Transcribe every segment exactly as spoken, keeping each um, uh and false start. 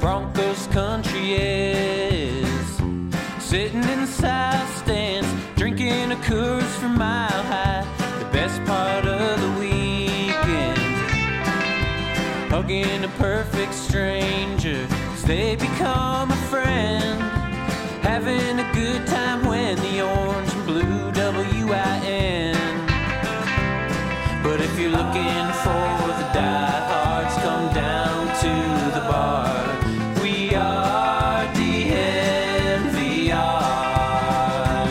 Broncos country is. Sitting in the south stands, drinking a Coors from Mile High. The best part of the weekend, hugging a perfect stranger, 'cause they become a friend. Having a good time when the orange and blue W I N. But if you're looking for the diehards, come down to the bar. We are D N V R.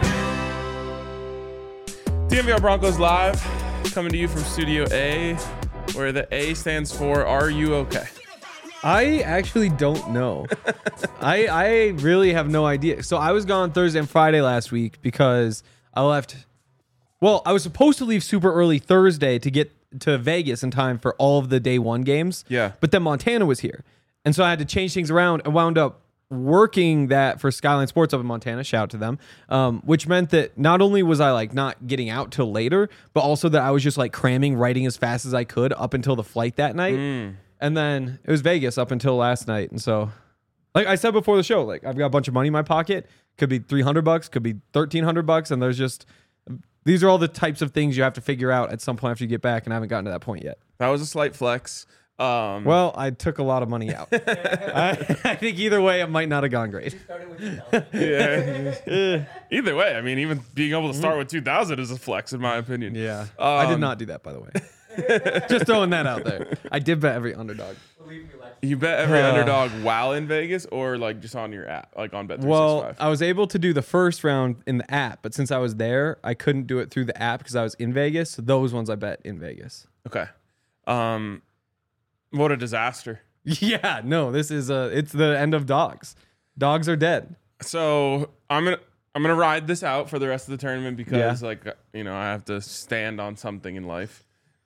D N V R Broncos Live, coming to you from Studio A, where the A stands for Are You Okay? I actually don't know. I I really have no idea. So I was gone Thursday and Friday last week because I left. Well, I was supposed to leave super early Thursday to get to Vegas in time for all of the day one games. Yeah. But then Montana was here. And so I had to change things around and wound up working that for Skyline Sports up in Montana. Shout out to them. Um, which meant that not only was I like not getting out till later, but also that I was just like cramming, writing as fast as I could up until the flight that night. Mm. And then it was Vegas up until last night. And so, like I said before the show, like I've got a bunch of money in my pocket. Could be three hundred bucks, could be thirteen hundred bucks. And there's just, these are all the types of things you have to figure out at some point after you get back. And I haven't gotten to that point yet. That was a slight flex. Um, Well, I took a lot of money out. I, I think either way, it might not have gone great. yeah. Either way, I mean, even being able to start with two thousand is a flex, in my opinion. Yeah. Um, I did not do that, by the way. Just throwing that out there. I did bet every underdog. You bet every Uh, underdog while in Vegas or like just on your app, like on Bet three Well, sixty-five? I was able to do the first round in the app, but since I was there, I couldn't do it through the app because I was in Vegas. So those ones I bet in Vegas. Okay. Um, what a disaster. Yeah, no, this is uh it's the end of dogs. Dogs are dead. So I'm gonna I'm gonna ride this out for the rest of the tournament because Yeah. like you know I have to stand on something in life,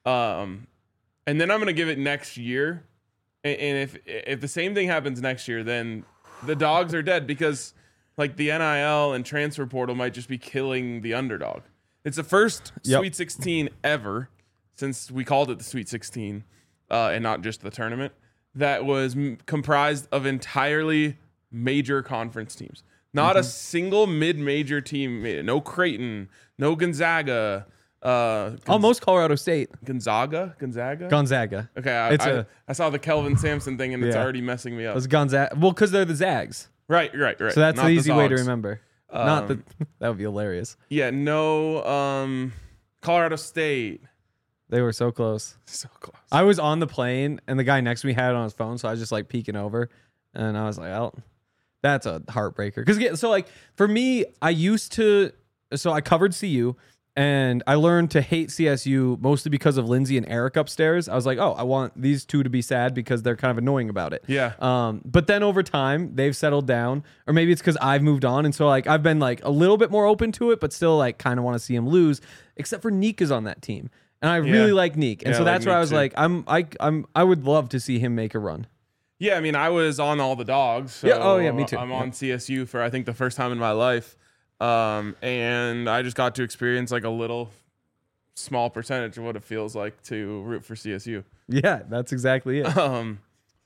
um, and then I'm gonna give it next year, and, and if if the same thing happens next year, then the dogs are dead because like the N I L and transfer portal might just be killing the underdog. It's the first Yep. Sweet sixteen ever since we called it the Sweet sixteen, uh, and not just the tournament, that was m- comprised of entirely major conference teams. Not a single mid-major team made it. No Creighton, no Gonzaga. Uh, Gonz- Almost Colorado State. Gonzaga? Gonzaga? Gonzaga. okay, I, It's I, a- I saw the Kelvin Sampson thing and it's Yeah. already messing me It up. was Gonzaga. Well, because they're the Zags. Right, right, right. So that's Not the easy way to Zogs. remember. Not the Um, that would be hilarious. Yeah, no um, Colorado State. They were so close. So close. I was on the plane and the guy next to me had it on his phone, so I was just like peeking over, and I was like, "Oh, that's a heartbreaker." Because so like for me, I used to, so I covered C U, and I learned to hate C S U mostly because of Lindsay and Eric upstairs. I was like, "Oh, I want these two to be sad because they're kind of annoying about it." Yeah. Um, but then over time, they've settled down, or maybe it's because I've moved on, and so like I've been like a little bit more open to it, but still like kind of want to see him lose. Except for Neek is on that team. And I Yeah. really like Neek. And Yeah, so I like that's where Neek I was too. like, I'm I I'm I would love to see him make a run. Yeah, I mean, I was on all the dogs. So Yeah, oh, yeah, me too. I'm Yeah. on C S U for I think the first time in my life, um, and I just got to experience like a little small percentage of what it feels like to root for C S U. Yeah, that's exactly it. Um,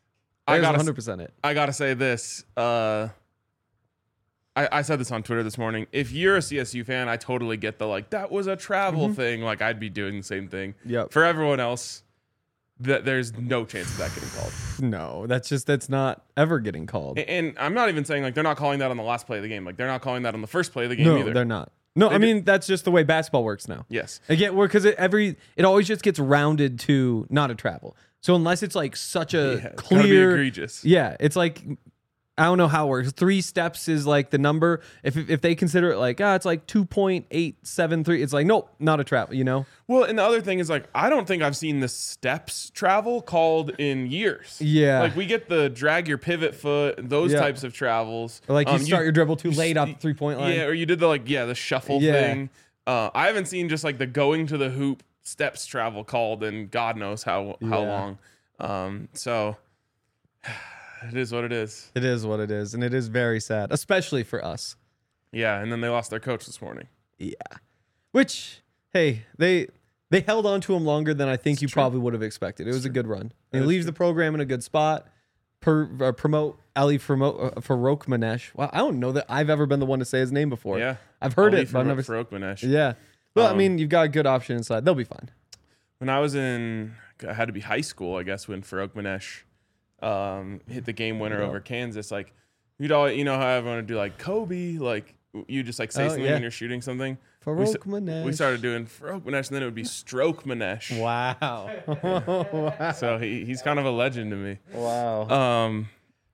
I I got gotta, one hundred percent it. I gotta say this. Uh, I, I said this on Twitter this morning. If you're a C S U fan, I totally get the like that was a travel thing. Like I'd be doing the same thing. Yep. For everyone else, that there's no chance of that getting called. No, that's just that's not ever getting called. And, and I'm not even saying like they're not calling that on the last play of the game. Like they're not calling that on the first play of the game No, either. they're not. No, They I do- mean that's just the way basketball works now. Yes. Again, because it every it always just gets rounded to not a travel. So unless it's like such a Yeah, it's gotta be clear, egregious. yeah, it's like I don't know how it works. Three steps is like the number. If if they consider it like ah, it's like two point eight seven three. It's like nope, not a travel. You know. Well, and the other thing is like I don't think I've seen the steps travel called in years. Yeah. Like we get the drag your pivot foot, those Yeah. types of travels. Or like you Um, start your dribble too you late s- off the three point line. Yeah, or you did the like yeah the shuffle Yeah. thing. Uh, I haven't seen just like the going to the hoop steps travel called in God knows how how Yeah. long. Um, so it is what it is. It is what it is, and it is very sad, especially for us. Yeah, and then they lost their coach this morning. Yeah. Which, hey, they they held on to him longer than I think you true. probably would have expected. It was a good run. He is leaves the program in a good spot. per, uh, promote Ali Farouk Manesh. Well, I don't know that I've ever been the one to say his name before. Yeah. I've heard Ali it, but I've never. Farouk Manesh. Yeah. Well, Um, I mean, you've got a good option inside. They'll be fine. When I was in, I had to be high school, I guess, when Farouk Manesh um, hit the game winner over Kansas. Like, you'd all, you know how everyone would do like Kobe, like you just like say Oh, something yeah. when you're shooting something. We, Farouk s- Manesh. we started doing Farouk Manesh, and then it would be Stroke Manesh. Wow. So he, he's kind of a legend to me. wow. Um,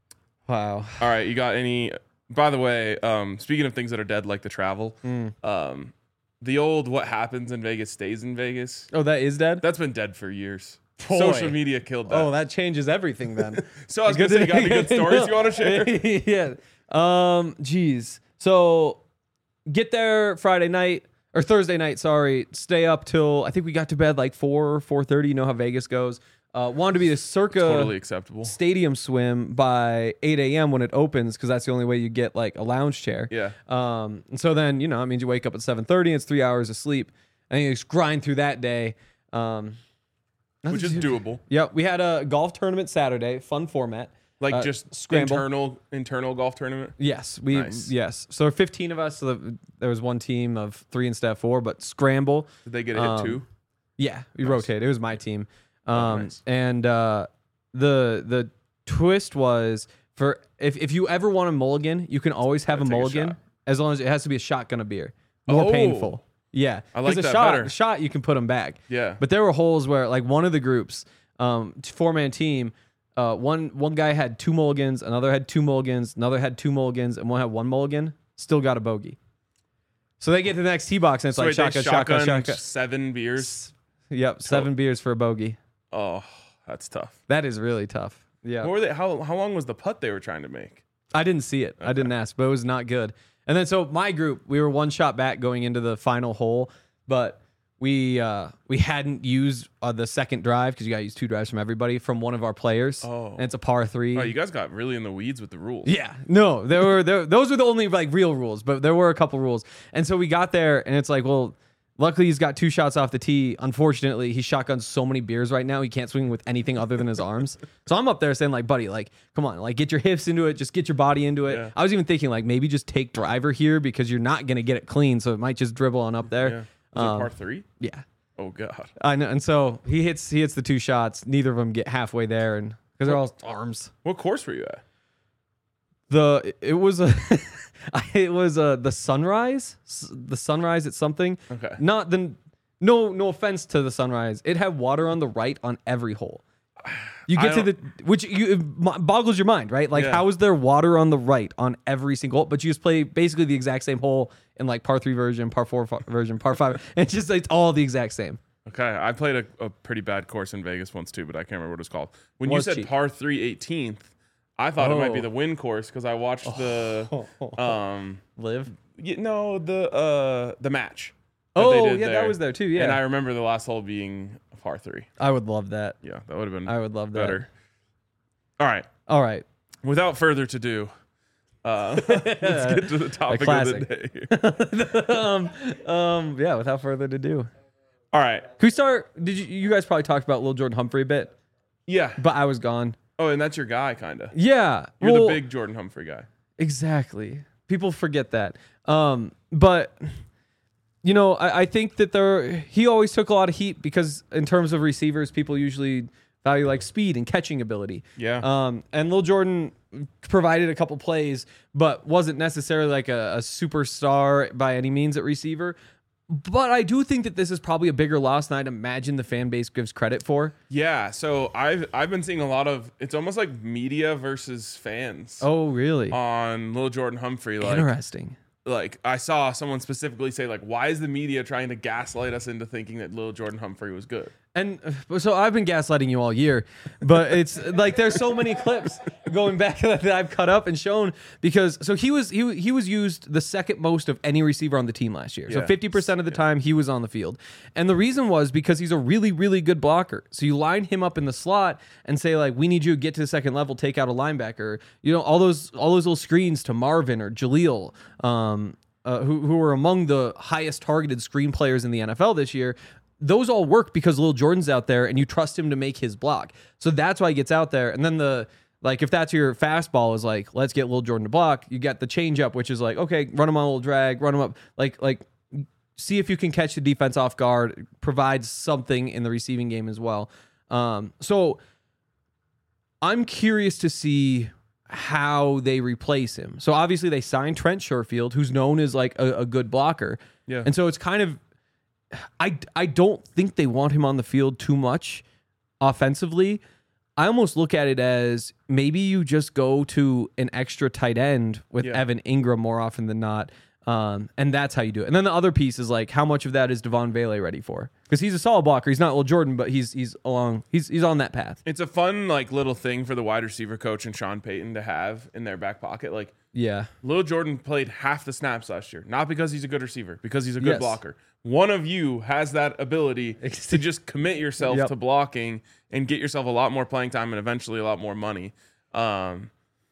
Wow. all right, you got any? By the way, um, speaking of things that are dead, like the travel, Mm. um, the old "what happens in Vegas stays in Vegas." Oh, that is dead? That's been dead for years. Boy. Social media killed that. Oh, that changes everything then. so I was gonna say, you got any good stories you want to share? yeah. Um, geez. So get there Friday night or Thursday night, sorry. Stay up till I think we got to bed like four, four thirty. You know how Vegas goes. Uh, wanted to be the circa Totally acceptable. stadium swim by eight a.m. when it opens because that's the only way you get like a lounge chair. Yeah. Um, and so then, you know, it means you wake up at seven thirty, it's three hours of sleep, and you just grind through that day. Um, Which is doable. Yep. We had a golf tournament Saturday, fun format. Like Uh, just scramble. internal internal golf tournament. Yes, we Nice. yes. So there were fifteen of us. So the, there was one team of three instead of four, but scramble. Did they get a hit Um, too? Yeah, we Nice. rotated. It was my team. Um, Oh, nice. and uh, the the twist was for if if you ever want a mulligan, you can always have a Gotta take a mulligan shot. as long as it has to be a shotgun of beer. More Oh. painful. Yeah, I like 'Cause a that shot, better. a shot you can put them back. Yeah. But there were holes where, like, one of the groups, um, four man team, uh, one one guy had two mulligans, another had two mulligans, another had two mulligans, and one had one mulligan. Still got a bogey. So they get to the next tee box and it's So like wait, they shotgun, shotgun, shotgunned shotgun. seven beers. Yep, seven beers for a bogey. Oh, that's tough. That is really tough. Yeah, What were they? How how long was the putt they were trying to make? I didn't see it. I didn't ask, but it was not good. And then so my group, we were one shot back going into the final hole, but we uh, we hadn't used uh, the second drive because you got to use two drives from everybody from one of our players. Oh. And it's a par three. Oh, you guys got really in the weeds with the rules. Yeah, no, there were there. Those were the only like real rules, but there were a couple rules. And so we got there, and it's like, well, luckily he's got two shots off the tee. Unfortunately, he shotguns so many beers right now he can't swing with anything other than his arms. So I'm up there saying like, buddy, like, come on, like get your hips into it, just get your body into it. Yeah. I was even thinking like maybe just take driver here because you're not gonna get it clean, so it might just dribble on up there. Yeah. Was Um, it par three? Yeah, Oh God. I know. And so he hits he hits the two shots. Neither of them get halfway there, and because they're all arms. What course were you at? The it was a it was a the sunrise S- the sunrise at something. Okay. Not the no no offense to the sunrise. It had water on the right on every hole. You I get to the which you it mo- boggles your mind, right? Like Yeah. how is there water on the right on every single hole? But you just play basically the exact same hole in like par three version, par four fa- version, par five. And it's just like, it's all the exact same. Okay, I played a, a pretty bad course in Vegas once too, but I can't remember what it was called. When Was you said cheap. par three eighteenth, I thought it might be Oh. the win course because I watched the um Live. y- no the uh the match. that they Oh did yeah, that there. was there too. Yeah, And I remember the last hole being a par three. I would love that. Yeah, that would have been I would love that. better. All right. All right. Without further ado, uh, let's get to the topic of classic. the day. um, um, yeah. Without further ado. All right. Can we start? Did you you guys probably talked about Lil Jordan Humphrey a bit, Yeah. but I was gone. Oh, and that's your guy, kind of. Yeah, You're well, the big Jordan Humphrey guy. exactly. People forget that. Um, but you know, I, I think that there he always took a lot of heat because in terms of receivers, people usually value like speed and catching ability. Yeah. Um, and Lil Jordan provided a couple plays, but wasn't necessarily like a, a superstar by any means at receiver. But I do think that this is probably a bigger loss than I'd imagine the fan base gives credit for. Yeah. So I've I've been seeing a lot of. It's almost like media versus fans Oh, really? on Lil Jordan Humphrey. Like, Interesting. like I saw someone specifically say, like, why is the media trying to gaslight us into thinking that Lil Jordan Humphrey was good? And uh, so I've been gaslighting you all year, but it's like there's so many clips going back that I've cut up and shown because so he was he he was used the second most of any receiver on the team last year. So Yeah. fifty percent of the time he was on the field. And the reason was because he's a really really good blocker. So you line him up in the slot and say like we need you to get to the second level, take out a linebacker. You know all those all those little screens to Marvin or Jaleel um uh, who who were among the highest targeted screen players in the N F L this year. Those all work because Lil Jordan's out there and you trust him to make his block. So that's why he gets out there. And then the Like if that's your fastball is like, let's get Lil Jordan to block. You got the changeup, which is like, okay, run him on a little drag, run him up. Like, like see if you can catch the defense off guard, provide something in the receiving game as well. Um, so I'm curious to see how they replace him. So obviously they signed Trent Sherfield, who's known as like a, a good blocker. Yeah. And so it's kind of, I, I don't think they want him on the field too much offensively. I almost look at it as maybe you just go to an extra tight end with Yeah. Evan Ingram more often than not. Um, and that's how you do it. And then the other piece is like, how much of that is Devon Vele ready for? Because he's a solid blocker. He's not Lil Jordan, but he's he's along. He's he's on that path. It's a fun like little thing for the wide receiver coach and Sean Payton to have in their back pocket. Like Yeah. Lil Jordan played half the snaps last year, not because he's a good receiver, because he's a good Yes. blocker. One of you has that ability to just commit yourself Yep. to blocking and get yourself a lot more playing time and eventually a lot more money. Um,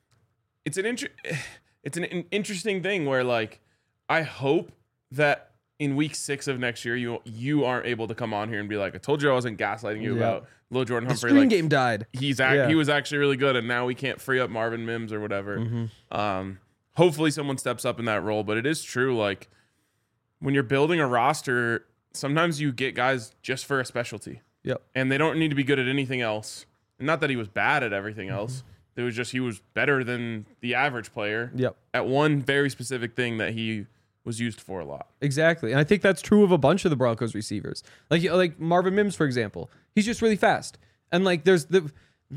it's an inter- it's an, an interesting thing where like I hope that in week six of next year you you aren't able to come on here and be like, I told you I wasn't gaslighting you Yeah. about Lil Jordan The Humphrey. screen Like, game died. he's act- Yeah. he was actually really good, and now we can't free up Marvin Mims or whatever. Mm-hmm. Um, hopefully someone steps up in that role, but it is true. Like when you're building a roster, sometimes you get guys just for a specialty, Yep. and they don't need to be good at anything else. And not that he was bad at everything else. It was just he was better than the average player Yep. at one very specific thing that he was used for a lot. Exactly. And I think that's true of a bunch of the Broncos receivers. Like like Marvin Mims, for example. He's just really fast. And like there's the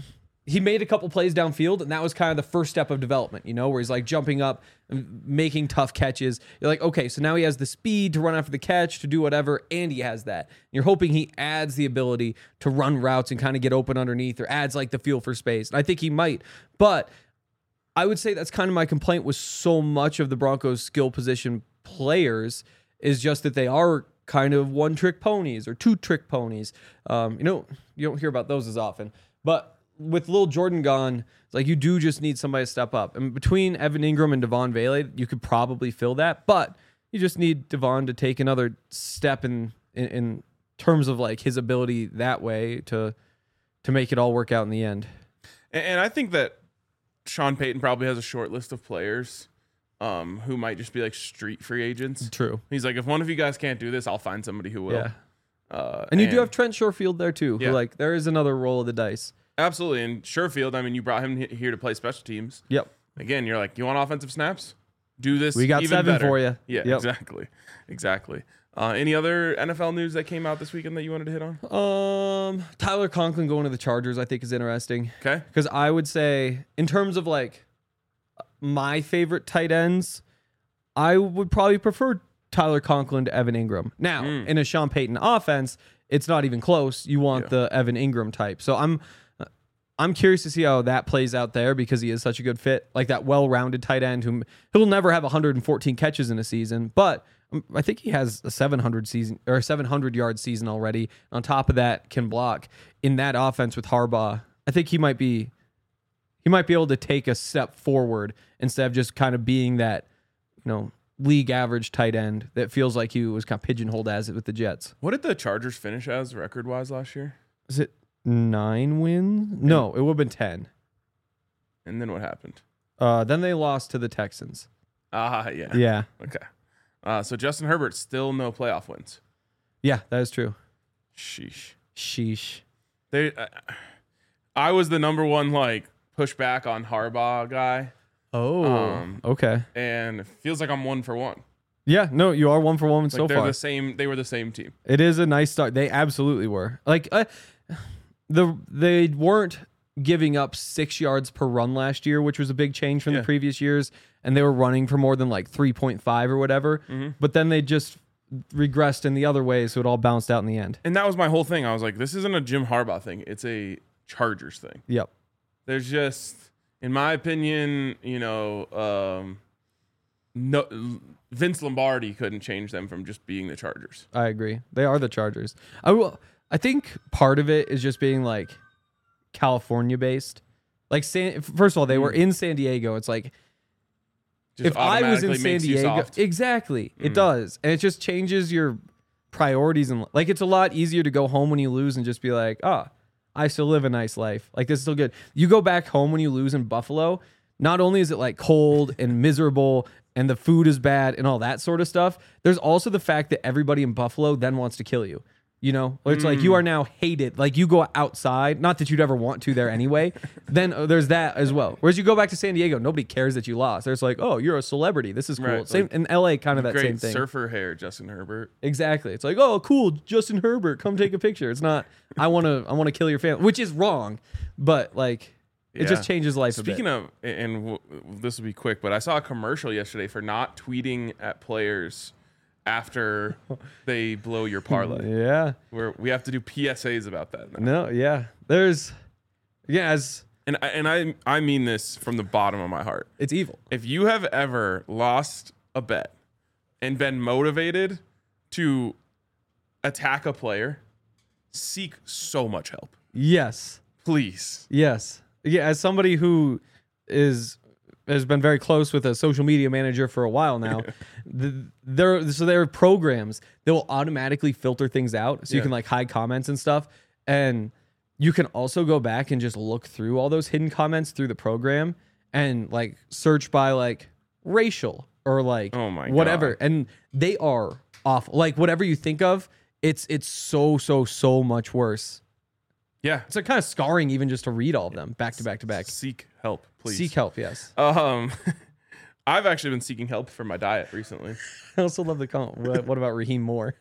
he made a couple plays downfield, and that was kind of the first step of development, you know, where he's like jumping up and making tough catches. You're like, okay, so now he has the speed to run after the catch, to do whatever, and he has that. You're hoping he adds the ability to run routes and kind of get open underneath, or adds like the feel for space. And I think he might. But I would say that's kind of my complaint with so much of the Broncos skill position players is just that they are kind of one trick ponies or two trick ponies. Um, you know, you don't hear about those as often, but with Lil Jordan gone, it's like you do just need somebody to step up. And between Evan Ingram and Devon Vele, you could probably fill that, but you just need Devon to take another step in, in, in terms of like his ability that way to, to make it all work out in the end. And, and I think that Sean Payton probably has a short list of players um, who might just be like street free agents. True. He's like, if one of you guys can't do this, I'll find somebody who will. Yeah. Uh, And you do have Trent Sherfield there too, Yeah. who like there is another roll of the dice. absolutely. And Sherfield, I mean, you brought him he- here to play special teams. Yep. Again, you're like, you want offensive snaps? Do this. We got even seven better. for you. Yeah, Yep. exactly, exactly. Uh, any other N F L news that came out this weekend that you wanted to hit on? Um, Tyler Conklin going to the Chargers, I think is interesting. Okay. Because I would say, in terms of like my favorite tight ends, I would probably prefer Tyler Conklin to Evan Ingram. Now, Mm. in a Sean Payton offense, it's not even close. You want Yeah. the Evan Ingram type. So I'm I'm curious to see how that plays out there because he is such a good fit, like that well-rounded tight end who he'll never have one hundred fourteen catches in a season, but um, I think he has a seven hundred season or seven hundred yard season already. On top of that, can block in that offense with Harbaugh. I think he might be he might be able to take a step forward instead of just kind of being that, you know, league average tight end that feels like he was kind of pigeonholed as it with the Jets. What did the Chargers finish as record wise last year? Is it nine wins? No, it would have been ten. And then what happened? Uh, then they lost to the Texans. Ah, yeah. Yeah. Okay. Uh, so Justin Herbert still no playoff wins. Yeah, that is true. Sheesh. Sheesh. They, uh, I was the number one like pushback on Harbaugh guy, Oh, Um, okay. and it feels like I'm one for one. Yeah, no, you are one for one Like so they're far. the same. They were the same team. It is a nice start. They absolutely were. Like uh, the they weren't giving up six yards per run last year, which was a big change from Yeah. the previous years, and they were running for more than like three point five or whatever. Mm-hmm. But then they just regressed in the other way, so it all bounced out in the end. And that was my whole thing. I was like, this isn't a Jim Harbaugh thing. It's a Chargers thing. Yep. There's just, in my opinion, you know, um, no, Vince Lombardi couldn't change them from just being the Chargers. I agree. They are the Chargers. I will. I think part of it is just being like California based. Like San, first of all, they were in San Diego. It's like Just if I was in automatically San makes you Diego, soft. exactly, it Mm. does, and it just changes your priorities and like it's a lot easier to go home when you lose and just be like, ah, I still live a nice life. Like, this is still good. You go back home when you lose in Buffalo, not only is it like cold and miserable and the food is bad and all that sort of stuff, there's also the fact that everybody in Buffalo then wants to kill you. You know, it's mm. like you are now hated. Like, you go outside, not that you'd ever want to there anyway. Then uh, there's that as well. Whereas you go back to San Diego, nobody cares that you lost. There's like, oh, you're a celebrity. This is cool. Right, same like, in L A, kind of that great same thing. Surfer hair, Justin Herbert. Exactly. It's like, oh, cool, Justin Herbert, come take a picture. It's not, I want to, I want to kill your family, which is wrong, but like, it yeah. just changes life. Speaking a bit. of, and w- this will be quick, but I saw a commercial yesterday for not tweeting at players after they blow your parlay. Yeah. Where we have to do P S As about that now. No, yeah. There's yeah, as and I, and I I mean this from the bottom of my heart. It's evil. If you have ever lost a bet and been motivated to attack a player, seek so much help. Yes. Please. Yes. Yeah, as somebody who is has been very close with a social media manager for a while now. the, there, so there are programs that will automatically filter things out, so yeah. you can like hide comments and stuff, and you can also go back and just look through all those hidden comments through the program and like search by like racial or like oh my whatever, God. And they are awful. Like whatever you think of, it's it's so so so much worse. Yeah, it's like kind of scarring even just to read all of them back to back to back. Seek help, please. Seek help, yes. Um, I've actually been seeking help for my diet recently. I also love the comment. What, what about Raheem Moore?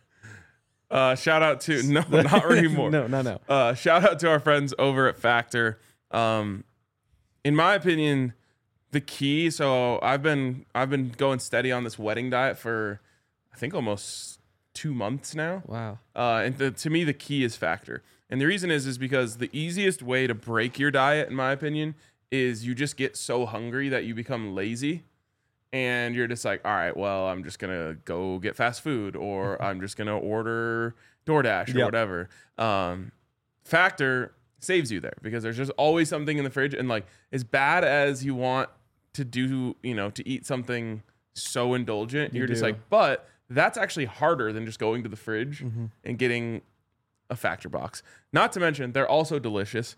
Uh, shout out to no, not Raheem Moore. no, no, no. Uh, shout out to our friends over at Factor. Um, in my opinion, the key. So I've been I've been going steady on this wedding diet for I think almost two months now. Wow. Uh, and the, to me, the key is Factor. And the reason is, is because the easiest way to break your diet, in my opinion, is you just get so hungry that you become lazy. And you're just like, all right, well, I'm just going to go get fast food, or I'm just going to order DoorDash or yep. whatever. Um, Factor saves you there because there's just always something in the fridge. And like, as bad as you want to do, you know, to eat something so indulgent, you you're do. just like, but that's actually harder than just going to the fridge mm-hmm. and getting a Factor box. Not to mention, they're also delicious.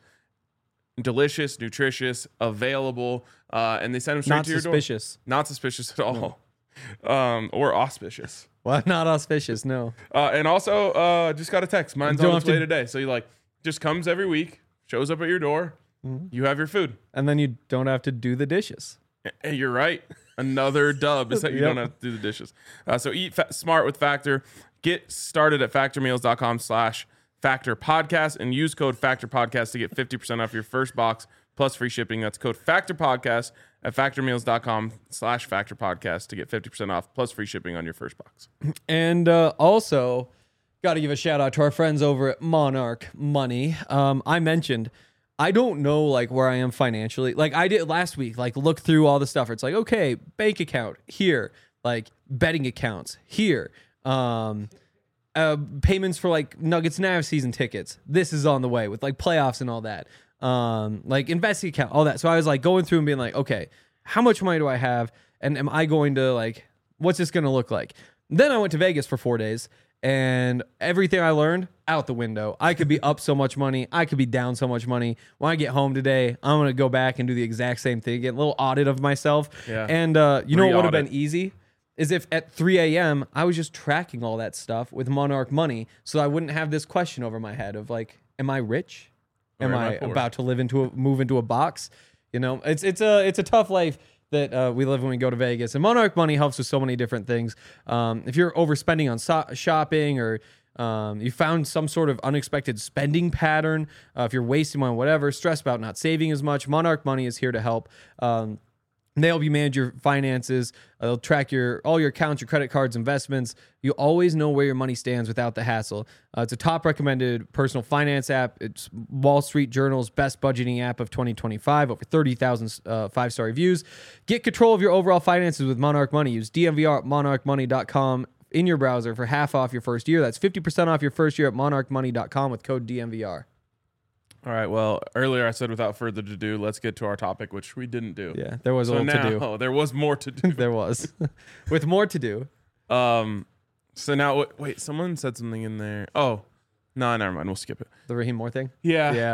Delicious, nutritious, available, uh, and they send them straight not to your suspicious. door. Not suspicious at all. No. Um, or auspicious. Well, not auspicious, no. Uh, and also, uh, just got a text. Mine's you on its way to... today. So you like, just comes every week, shows up at your door. Mm-hmm. You have your food. And then you don't have to do the dishes. Hey, you're right. Another dub is that you yep. don't have to do the dishes. Uh, so eat fa- smart with Factor. Get started at factormeals.com slash Factor Podcast and use code Factor Podcast to get fifty percent off your first box plus free shipping. That's code Factor Podcast at factormeals.com slash Factor Podcast to get fifty percent off plus free shipping on your first box. And uh, also, got to give a shout out to our friends over at Monarch Money. Um, I mentioned, I don't know like where I am financially. Like I did last week, like look through all the stuff. It's like, okay, bank account here, like betting accounts here. Um, Uh, payments for like Nuggets Nav season tickets. This is on the way with like playoffs and all that. Um, like investing account, all that. So I was like going through and being like, okay, how much money do I have? And am I going to like, what's this going to look like? Then I went to Vegas for four days and everything I learned out the window. I could be up so much money. I could be down so much money. When I get home today, I'm going to go back and do the exact same thing. Get a little audit of myself. Yeah. And uh, you know what would have Re-audit. been easy? Is if at three a.m. I was just tracking all that stuff with Monarch Money so I wouldn't have this question over my head of like, am I rich? Am, am I, I poor? about to live into a move into a box? You know, it's it's a it's a tough life that uh, we live when we go to Vegas. And Monarch Money helps with so many different things. Um, if you're overspending on so- shopping or um, you found some sort of unexpected spending pattern, uh, if you're wasting on whatever, stressed about not saving as much, Monarch Money is here to help. Um, They help you manage your finances. Uh, they'll track your all your accounts, your credit cards, investments. You always know where your money stands without the hassle. Uh, it's a top recommended personal finance app. It's Wall Street Journal's best budgeting app of twenty twenty-five. Over thirty thousand uh, five-star reviews. Get control of your overall finances with Monarch Money. Use D M V R at monarch money dot com in your browser for half off your first year. That's fifty percent off your first year at monarch money dot com with code D M V R. All right. Well, earlier I said without further ado, let's get to our topic, which we didn't do. Yeah, there was so a little now, to do. Oh, there was more to do. There was. With more to do. Um. So now, wait, someone said something in there. Oh, no, never mind. We'll skip it. The Raheem Moore thing? Yeah. Yeah.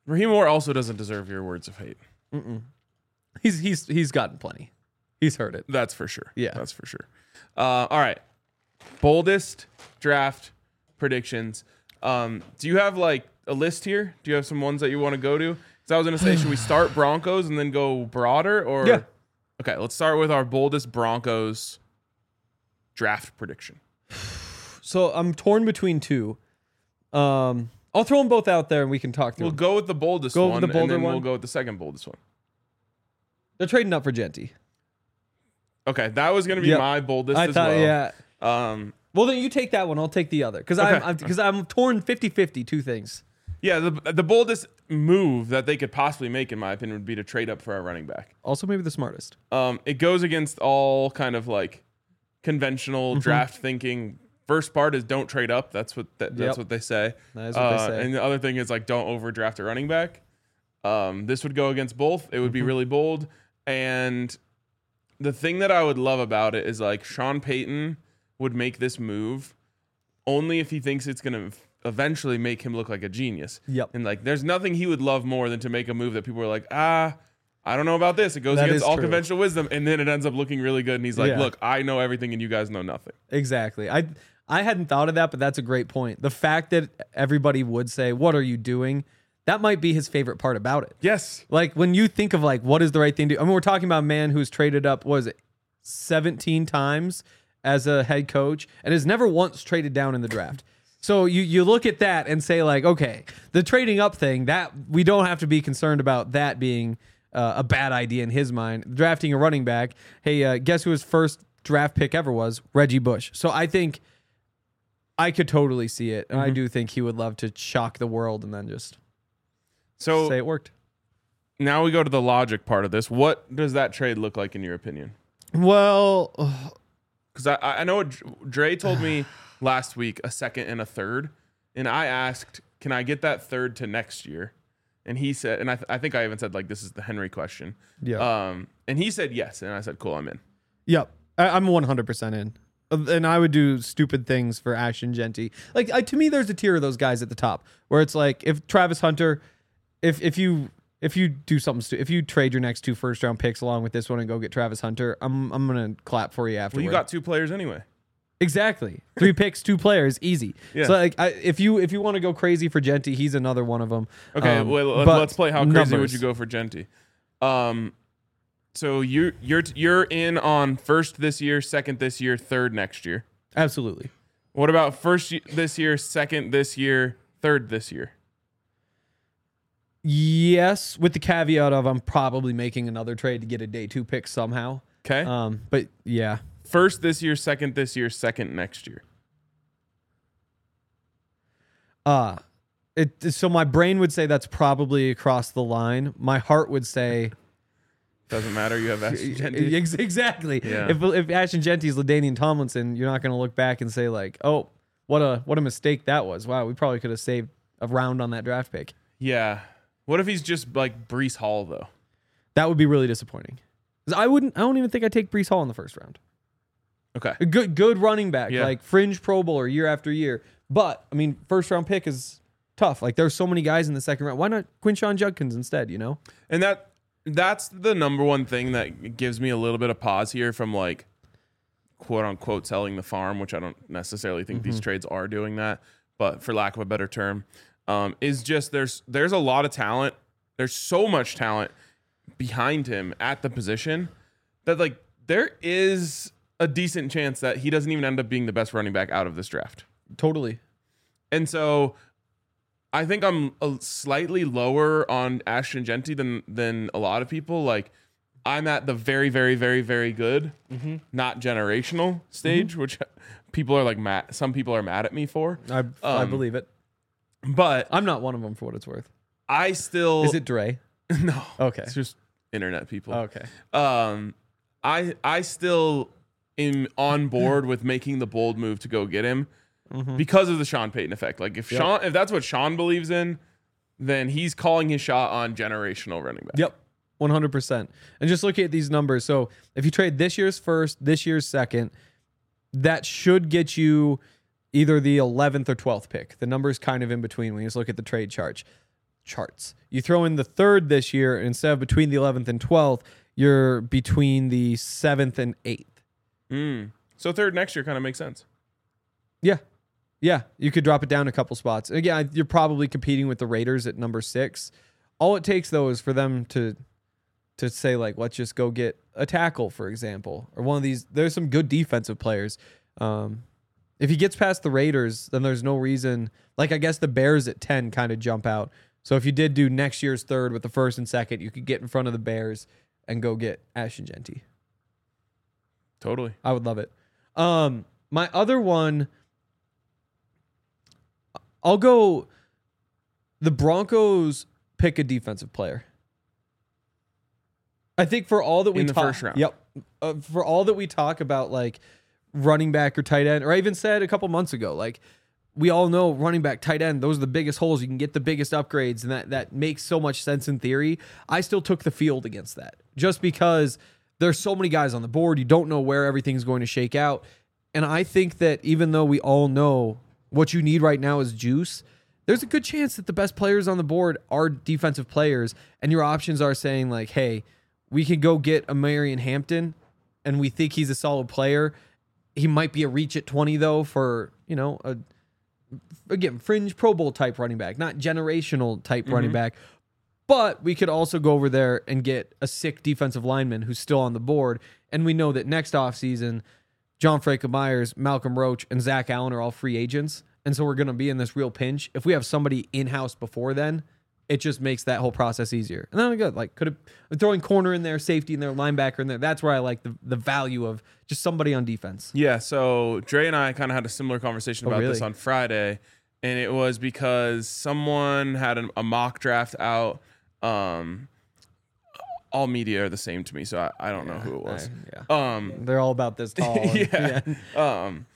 Raheem Moore also doesn't deserve your words of hate. He's he's he's gotten plenty. He's heard it. That's for sure. Yeah. That's for sure. Uh, all right. Boldest draft predictions. Um, do you have like a list here? Do you have some ones that you want to go to? Because I was going to say, should we start Broncos and then go broader? Or Yeah. Okay, let's start with our boldest Broncos draft prediction. So I'm torn between two. Um, I'll throw them both out there and we can talk through We'll them. go with the boldest Go with one, the bolder and then one? we'll go with the second boldest one. They're trading up for Genty. Okay, that was going to be Yep. my boldest I as thought, well. yeah. Um, Well, then you take that one. I'll take the other. Because Okay. I'm because I'm, I'm torn fifty-fifty, two things. yeah, the, the boldest move that they could possibly make, in my opinion, would be to trade up for a running back. Also, maybe the smartest. Um, it goes against all kind of like conventional Mm-hmm. draft thinking. First part is don't trade up. That's what that, that's Yep. what they say. That is what Uh, they say. And the other thing is like don't overdraft a running back. Um, this would go against both. It would be Mm-hmm. really bold. And the thing that I would love about it is like Sean Payton would make this move only if he thinks it's going to eventually make him look like a genius. Yep. And like there's nothing he would love more than to make a move that people are like, ah, I don't know about this. It goes That against is all true. conventional wisdom, and then it ends up looking really good. And he's like, Yeah. look, I know everything and you guys know nothing. Exactly. I I hadn't thought of that, but that's a great point. The fact that everybody would say, "What are you doing?" That might be his favorite part about it. Yes. Like when you think of like what is the right thing to do. I mean, we're talking about a man who's traded up, what is it, seventeen times as a head coach and has never once traded down in the draft. So you you look at that and say like, okay, the trading up thing, that we don't have to be concerned about that being uh, a bad idea in his mind. Drafting a running back, hey, uh, guess who his first draft pick ever was? Reggie Bush. So I think I could totally see it, and I do think he would love to shock the world and then just So say it worked. now we go to the logic part of this. What does that trade look like in your opinion? Well, Because I, I know what Dre told me last week a second and a third, and I asked, "Can I get that third to next year?" And he said, and I, th- I think I even said like, "This is the Henry question." yeah. Um, and he said yes, and I said, "Cool, I'm in." Yep. I, I'm one hundred percent in. Uh, And I would do stupid things for Ashton Genty. Like, I, to me, there's a tier of those guys at the top where it's like, if Travis Hunter, if if you if you do something, stu- if you trade your next two first round picks along with this one and go get Travis Hunter, I'm I'm gonna clap for you Well, afterward. you got two players anyway. exactly three picks, two players, easy. Yeah. So like, I, if you if you want to go crazy for Genty, he's another one of them. Okay, Um, well, let- but let's play. How crazy would numbers. you go for Genty? Um, so you you're you're in on first this year, second this year, third next year. Absolutely. What about first y- this year, second this year, third this year? Yes, with the caveat of I'm probably making another trade to get a day two pick somehow. Okay, Um, but yeah, first this year, second this year, second next year. uh it so my brain would say that's probably across the line. My heart would say Doesn't matter. You have Ashton Genty. Ex- exactly. Yeah. If if Ashton Genty's LaDainian Tomlinson, you're not going to look back and say like, oh, what a what a mistake that was. Wow, we probably could have saved a round on that draft pick. Yeah. What if he's just like Brees Hall though? That would be really disappointing. 'Cause I wouldn't. I don't even think I'd take Brees Hall in the first round. Okay. A good good running back, Yeah. like fringe Pro Bowler year after year. But I mean, first round pick is tough. Like there's so many guys in the second round. Why not Quinshawn Judkins instead? You know. And that that's the number one thing that gives me a little bit of pause here from like quote unquote selling the farm, which I don't necessarily think these trades are doing that, but for lack of a better term, um, is just there's there's a lot of talent. There's so much talent behind him at the position that like there is a decent chance that he doesn't even end up being the best running back out of this draft. Totally. And so I think I'm a slightly lower on Ashton Genty than than a lot of people. Like I'm at the very, very, very, very good, not generational stage, which people are like mad. Some people are mad at me for. I I Um, believe it. But I'm not one of them for what it's worth. I still Is it Dre? no. Okay. It's just internet people. Okay. Um, I I still am on board with making the bold move to go get him because of the Sean Payton effect. Like if Yep. Sean, if that's what Sean believes in, then he's calling his shot on generational running back. Yep. one hundred percent. And just look at these numbers. So if you trade this year's first, this year's second, that should get you either the eleventh or twelfth pick. The number's kind of in between when you just look at the trade charge. charts. You throw in the third this year, and instead of between the eleventh and twelfth, you're between the seventh and eighth. Mm. So third next year kind of makes sense. Yeah. Yeah. You could drop it down a couple spots. Again, you're probably competing with the Raiders at number six. All it takes, though, is for them to to say, like, let's just go get a tackle, for example, or one of these. There's some good defensive players. Um, if he gets past the Raiders, then there's no reason. Like, I guess the Bears at ten kind of jump out. So if you did do next year's third with the first and second, you could get in front of the Bears and go get Ashton Genty. Totally. I would love it. Um, my other one, I'll go the Broncos pick a defensive player. I think for all that we in the talk, first round. Yep. Uh, for all that we talk about, like running back or tight end, or I even said a couple months ago, like we all know running back, tight end, those are the biggest holes. You can get the biggest upgrades, and that that makes so much sense in theory. I still took the field against that just because there's so many guys on the board. You don't know where everything's going to shake out. And I think that even though we all know what you need right now is juice, there's a good chance that the best players on the board are defensive players, and your options are saying like, hey, we can go get a Marion Hampton, and we think he's a solid player. He might be a reach at twenty, though, for, you know, a again, fringe Pro Bowl type running back, not generational type mm-hmm. running back. But we could also go over there and get a sick defensive lineman who's still on the board. And we know that next offseason, John Franklin Myers, Malcolm Roach, and Zach Allen are all free agents. And so we're going to be in this real pinch. If we have somebody in-house before then, it just makes that whole process easier. And then we good. Like, could have throwing corner in there, safety in there, linebacker in there. That's where I like the, the value of just somebody on defense. Yeah, so Dre and I kind of had a similar conversation Oh, about really? this on Friday, and it was because someone had an, a mock draft out. Um, all media are the same to me, so I, I don't know who it was. I, yeah. Um, They're all about this tall. and- yeah. Um,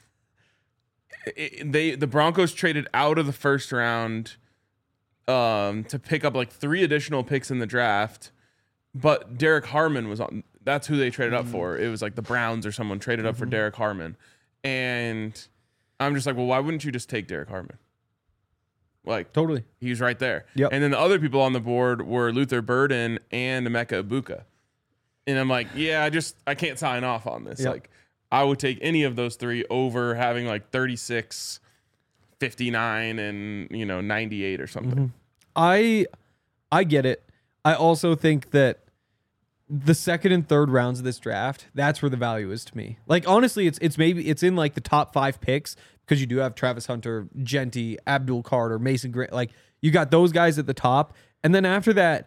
it, they the Broncos traded out of the first round um, to pick up like three additional picks in the draft, but Derek Harmon was on. That's who they traded up for. It was like the Browns or someone traded up for Derek Harmon, and I'm just like, well, why wouldn't you just take Derek Harmon? Like, Totally. he's right there. Yep. And then the other people on the board were Luther Burden and Emeka Ibuka. And I'm like, yeah, I just I can't sign off on this. Yep. Like, I would take any of those three over having like thirty-six, fifty-nine, and you know, ninety-eight or something. Mm-hmm. I I get it. I also think that the second and third rounds of this draft, that's where the value is to me. Like, honestly, it's it's maybe it's in like the top five picks because you do have Travis Hunter, Genty, Abdul Carter, Mason Grant. Like, you got those guys at the top, and then after that,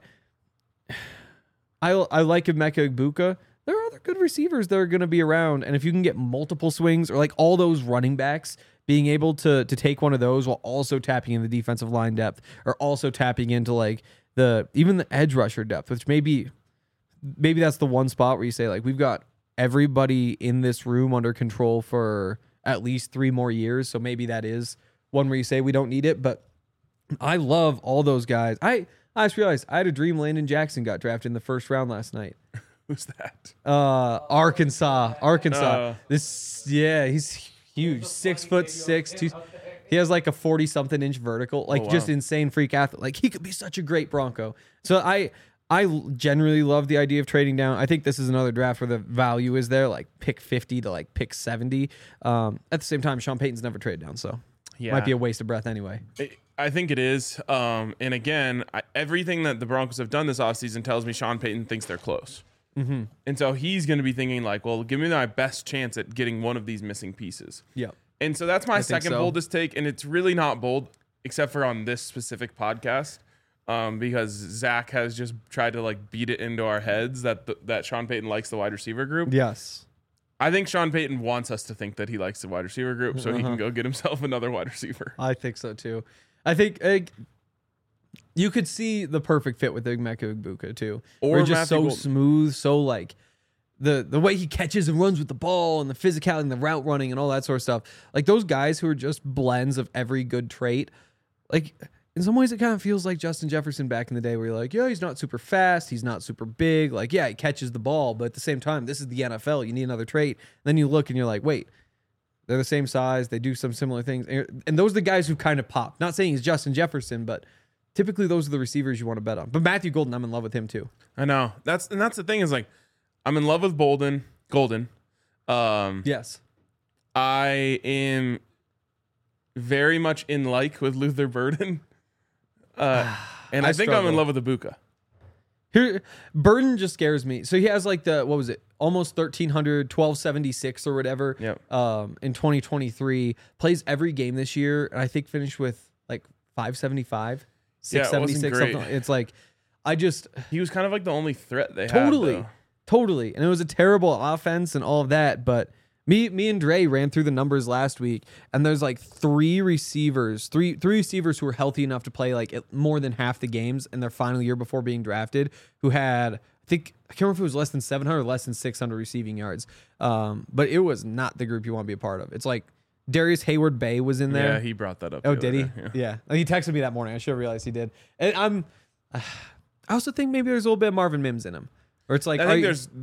I I like Emeka Ibuka. There are other good receivers that are going to be around, and if you can get multiple swings or like all those running backs being able to to take one of those while also tapping in the defensive line depth, or also tapping into like the even the edge rusher depth, which maybe maybe that's the one spot where you say like we've got everybody in this room under control for at least three more years, so maybe that is one where you say we don't need it. But I love all those guys. I I just realized I had a dream Landon Jackson got drafted in the first round last night. Who's that? Uh, Arkansas, Arkansas. Uh. This, yeah, he's huge, six foot six. Two, he has like a forty something inch vertical, like Oh, wow. just insane freak athlete. Like, he could be such a great Bronco. So I, I generally love the idea of trading down. I think this is another draft where the value is there, like pick fifty to like pick seventy. Um, at the same time, Sean Payton's never traded down, so Yeah. might be a waste of breath anyway. It- I think it is. Um, and again, I, everything that the Broncos have done this offseason tells me Sean Payton thinks they're close. Mm-hmm. And so he's going to be thinking like, well, give me my best chance at getting one of these missing pieces. Yep. And so that's my I think second so. boldest take. And it's really not bold, except for on this specific podcast, um, because Zach has just tried to like beat it into our heads that the, that Sean Payton likes the wide receiver group. Yes. I think Sean Payton wants us to think that he likes the wide receiver group so he Uh-huh. can go get himself another wide receiver. I think so too. I think uh, you could see the perfect fit with Emeka Ibuka too. Or Or just Matthew so Golden. smooth, so like the the way he catches and runs with the ball and the physicality and the route running and all that sort of stuff. Like those guys who are just blends of every good trait. Like in some ways it kind of feels like Justin Jefferson back in the day where you're like, yeah, he's not super fast, he's not super big. Like, yeah, he catches the ball, but at the same time, this is the N F L. You need another trait. And then you look and you're like, wait, they're the same size. They do some similar things. And and those are the guys who kind of pop. Not saying he's Justin Jefferson, but typically those are the receivers you want to bet on. But Matthew Golden, I'm in love with him too. I know. That's and that's the thing is like, I'm in love with Bolden, Golden. Um, Yes. I am very much in like with Luther Burden. Uh, and I, I think I'm in struggle. love with Ibuka. Here, Burden just scares me. So he has like the, what was it? Almost thirteen hundred, twelve seventy-six or whatever. Yep. Um, in twenty twenty-three, plays every game this year. And I think finished with like five seventy-five, Yeah, it wasn't six seventy-six. great. Something. It's like, I just He was kind of like the only threat they totally, had. though. totally. And it was a terrible offense and all of that. But me, me and Dre ran through the numbers last week, and there's like three receivers, three three receivers who were healthy enough to play like at more than half the games in their final year before being drafted, who had, I think, I can't remember if it was less than seven hundred or less than six hundred receiving yards. Um, but it was not the group you want to be a part of. It's like Darius Hayward Bay was in there. Yeah, he brought that up. Oh, the did other he? day, Yeah. And he texted me that morning. I should have realized he did. And I'm, I also think maybe there's a little bit of Marvin Mims in him. Or it's like, I are think you- there's,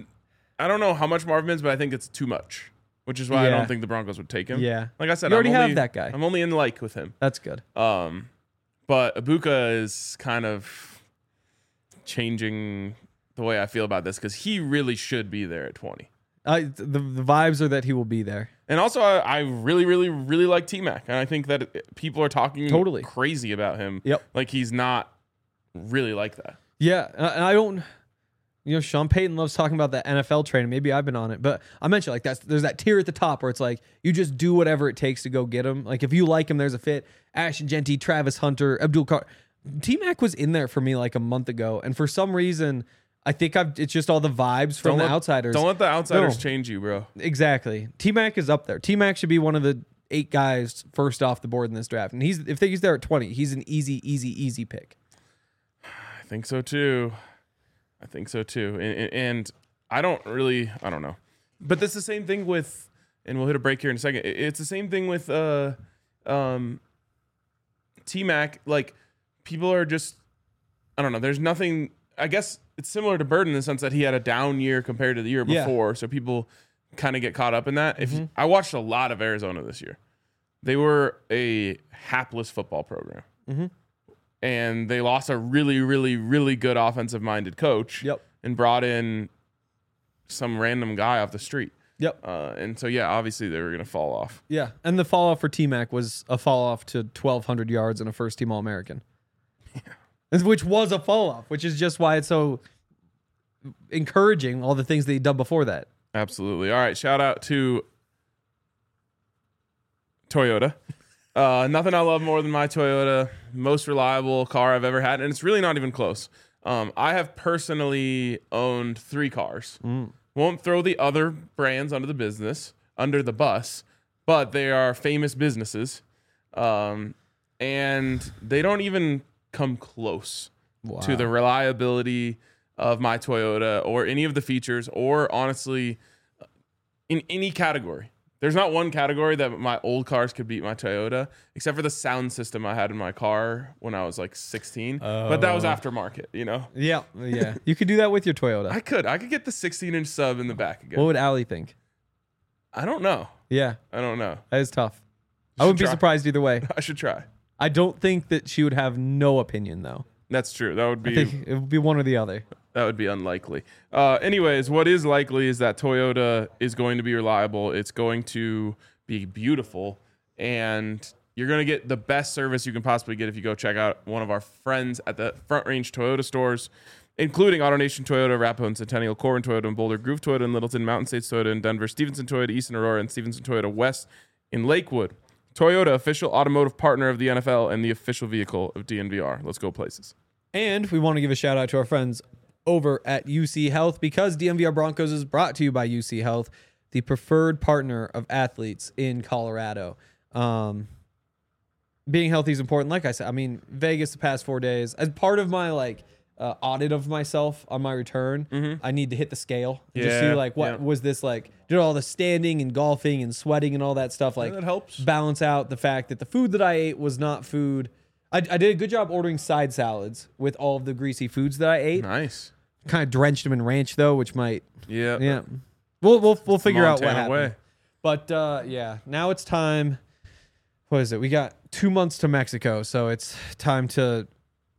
I don't know how much Marvin Mims, but I think it's too much, which is why I Yeah. don't think the Broncos would take him. Yeah. Like I said, You already I'm have only, that guy. I'm only in like with him. that's good. Um, but Ibuka is kind of changing the way I feel about this because he really should be there at twenty. I, the, the vibes are that he will be there. And also, I, I really, really, really like T-Mac. And I think that it- people are talking Totally. crazy about him. Yep. Like he's not really like that. Yeah. And I- and I don't, you know, Sean Payton loves talking about that N F L training. Maybe I've been on it, but I mentioned like that's, there's that tier at the top where it's like, you just do whatever it takes to go get him. Like if you like him, there's a fit. Ashton Genty, Travis Hunter, Abdul Carr. T-Mac was in there for me like a month ago. And for some reason, I think I've, it's just all the vibes from Don't the let- outsiders. Don't let the outsiders No. change you, bro. Exactly. T-Mac is up there. T-Mac should be one of the eight guys first off the board in this draft. And he's if he's there at twenty, he's an easy, easy, easy pick. I think so too. I think so too. And, and- and I don't really, I don't know. But that's the same thing with, and we'll hit a break here in a second. It- It's the same thing with uh, um, T-Mac. Like people are just, I don't know. There's nothing, I guess it's similar to Burden in the sense that he had a down year compared to the year Yeah. before. So people kind of get caught up in that. If Mm-hmm. I watched a lot of Arizona this year, they were a hapless football program. Mm-hmm. And they lost a really, really, really good offensive-minded coach. Yep. And brought in some random guy off the street. Yep. Uh, and so, yeah, obviously they were going to fall off. Yeah. And the fall off for T-Mac was a fall off to twelve hundred yards and a first team All American. Yeah. Which was a fall off, which is just why it's so encouraging all the things that he done before that. Absolutely. All right. Shout out to Toyota. Uh, nothing I love more than my Toyota. Most reliable car I've ever had. And it's really not even close. Um, I have personally owned three cars. Won't throw the other brands under the business, under the bus, but they are famous businesses. Um, and they don't even come close to the reliability of my Toyota or any of the features or honestly in any category. There's not one category that my old cars could beat my Toyota, except for the sound system I had in my car when I was like sixteen. But that was aftermarket, you know? Yeah. Yeah. You could do that with your Toyota. I could. I could get the sixteen inch sub in the back again. What would Allie think? I don't know. Yeah. I don't know. That is tough. I wouldn't be try. surprised either way. I should try. I don't think that she would have no opinion, though. That's true. That would I be think it would be one or the other. that would be unlikely. Uh, anyways, what is likely is that Toyota is going to be reliable. It's going to be beautiful, and you're going to get the best service you can possibly get if you go check out one of our friends at the Front Range Toyota stores, including AutoNation Toyota, Arapahoe and Centennial, Corbin Toyota and Boulder, Groove Toyota in Littleton, Mountain States Toyota in Denver, Stevenson Toyota, Eastern Aurora, and Stevenson Toyota West in Lakewood. Toyota, official automotive partner of the N F L and the official vehicle of D N V R. Let's go places. And we want to give a shout out to our friends over at U C Health because D M V R Broncos is brought to you by U C Health, the preferred partner of athletes in Colorado. Um, being healthy is important. Like I said, I mean, Vegas the past four days, as part of my like uh, audit of myself on my return, I need to hit the scale. and Just see Yeah, like, what yeah. was this like? Did all the standing and golfing and sweating and all that stuff like that helps. balance out the fact that the food that I ate was not food. I, I did a good job ordering side salads with all of the greasy foods that I ate. Nice. Kind of drenched them in ranch though, which might Yeah. yeah. We'll we'll we'll figure out what Montana happened. way. But uh, yeah, now it's time. What is it? We got two months to Mexico, so it's time to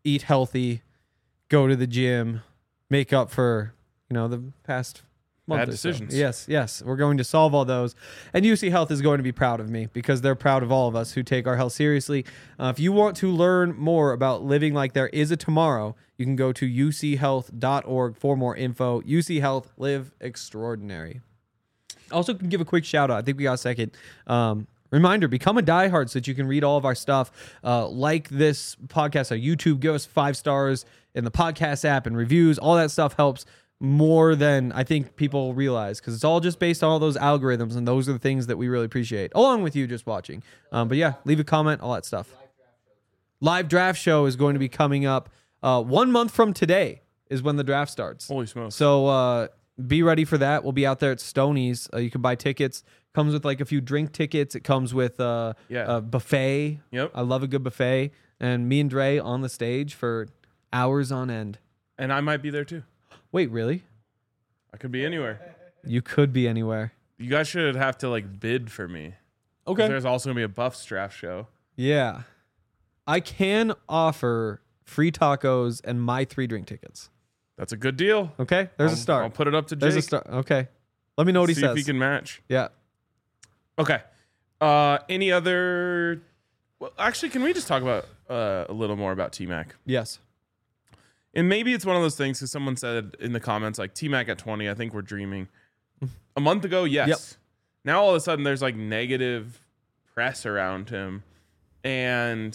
eat healthy, go to the gym, make up for, you know, the past month Bad or so. decisions. Yes, yes. We're going to solve all those. And U C Health is going to be proud of me because they're proud of all of us who take our health seriously. Uh, if you want to learn more about living like there is a tomorrow, you can go to u c health dot org for more info. U C Health, live extraordinary. Also, can give a quick shout out. I think we got a second. Um, reminder, become a diehard so that you can read all of our stuff. Uh, like this podcast on YouTube. Give us five stars in the podcast app and reviews. All that stuff helps more than I think people realize because it's all just based on all those algorithms, and those are the things that we really appreciate, along with you just watching. Um, but yeah, leave a comment, all that stuff. Live draft show is going to be coming up uh, one month from today is when the draft starts. Holy smokes. So uh, be ready for that. We'll be out there at Stoney's. Uh, you can buy tickets. Comes with like a few drink tickets. It comes with uh, Yeah. a buffet. Yep. I love a good buffet. And me and Dre on the stage for hours on end. And I might be there too. Wait, really? I could be anywhere. You could be anywhere. You guys should have to like bid for me. 'Cause There's also gonna be a Buffs draft show. Yeah. I can offer free tacos and my three drink tickets. That's a good deal. Okay? There's I'll, a start. I'll put it up to Jake. There's a start. Okay. Let me know what he See says. if he can match. Yeah. Okay. Uh, any other? Well, actually, can we just talk about uh, a little more about T Mac? Yes. And maybe it's one of those things because someone said in the comments like T Mac at twenty. I think we're dreaming. A month ago, yes. Yep. Now all of a sudden there's like negative press around him, and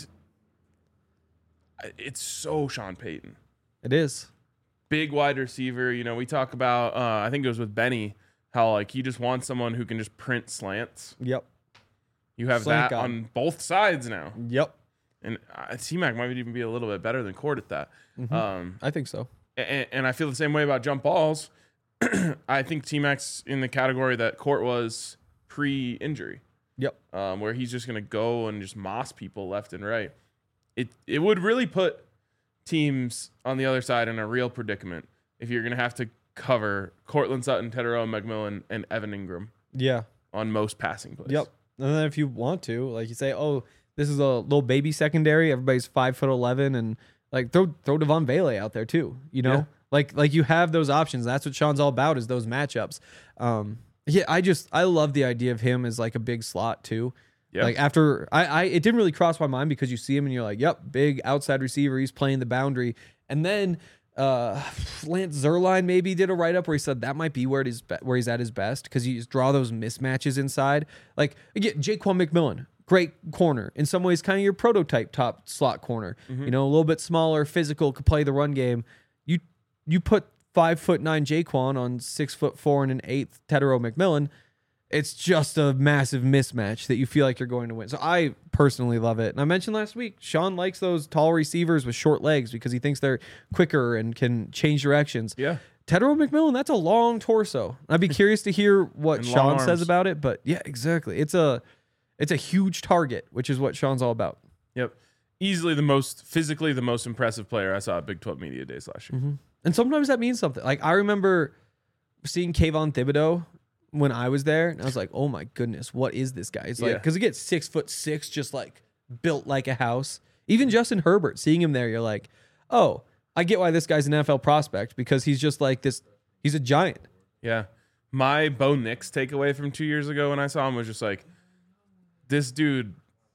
it's so Sean Payton. It is. Big wide receiver. You know, we talk about. Uh, I think it was with Benny how like he just wants someone who can just print slants. Yep. You have Slant that guy. on both sides now. Yep. And uh, T Mac might even be a little bit better than Court at that. Mm-hmm. Um, I think so. and, and I feel the same way about jump balls. I think T Mac's in the category that Court was pre-injury, Yep. um, where he's just going to go and just moss people left and right. It it would really put teams on the other side in a real predicament if you're going to have to cover Cortland Sutton, Teteroa McMillan, and Evan Ingram Yeah. on most passing plays. Yep. And then if you want to, like you say, oh, this is a little baby secondary. Everybody's five foot eleven, and like throw throw Devon Vele out there too. You know, Yeah. like like you have those options. That's what Sean's all about is those matchups. Um, yeah, I just I love the idea of him as like a big slot too. Yeah. Like after I, I it didn't really cross my mind because you see him and you're like, yep, big outside receiver. He's playing the boundary, and then. Uh, Lance Zerline maybe did a write up where he said that might be where it is be- where he's at his best because you just draw those mismatches inside. Like again, Jaquan McMillan, great corner in some ways, kind of your prototype top slot corner. Mm-hmm. You know, a little bit smaller, physical, could play the run game. You you put five foot nine Jaquan on six foot four and an eighth Teteroa McMillan. It's just a massive mismatch that you feel like you're going to win. So I personally love it. And I mentioned last week, Sean likes those tall receivers with short legs because he thinks they're quicker and can change directions. Yeah. Teteroa McMillan, that's a long torso. I'd be curious to hear what And Sean long says arms. about it. But yeah, exactly. It's a it's a huge target, which is what Sean's all about. Yep. Easily the most physically the most impressive player I saw at Big twelve Media Days last year. Mm-hmm. And sometimes that means something. Like I remember seeing Kayvon Thibodeau when I was there, and I was like, "Oh my goodness, what is this guy?" It's like Yeah. because he gets six foot six, just like built like a house. Even Justin Herbert, seeing him there, you're like, "Oh, I get why this guy's an N F L prospect because he's just like this. He's a giant." Yeah. My Bo Nix takeaway from two years ago when I saw him was just like, this dude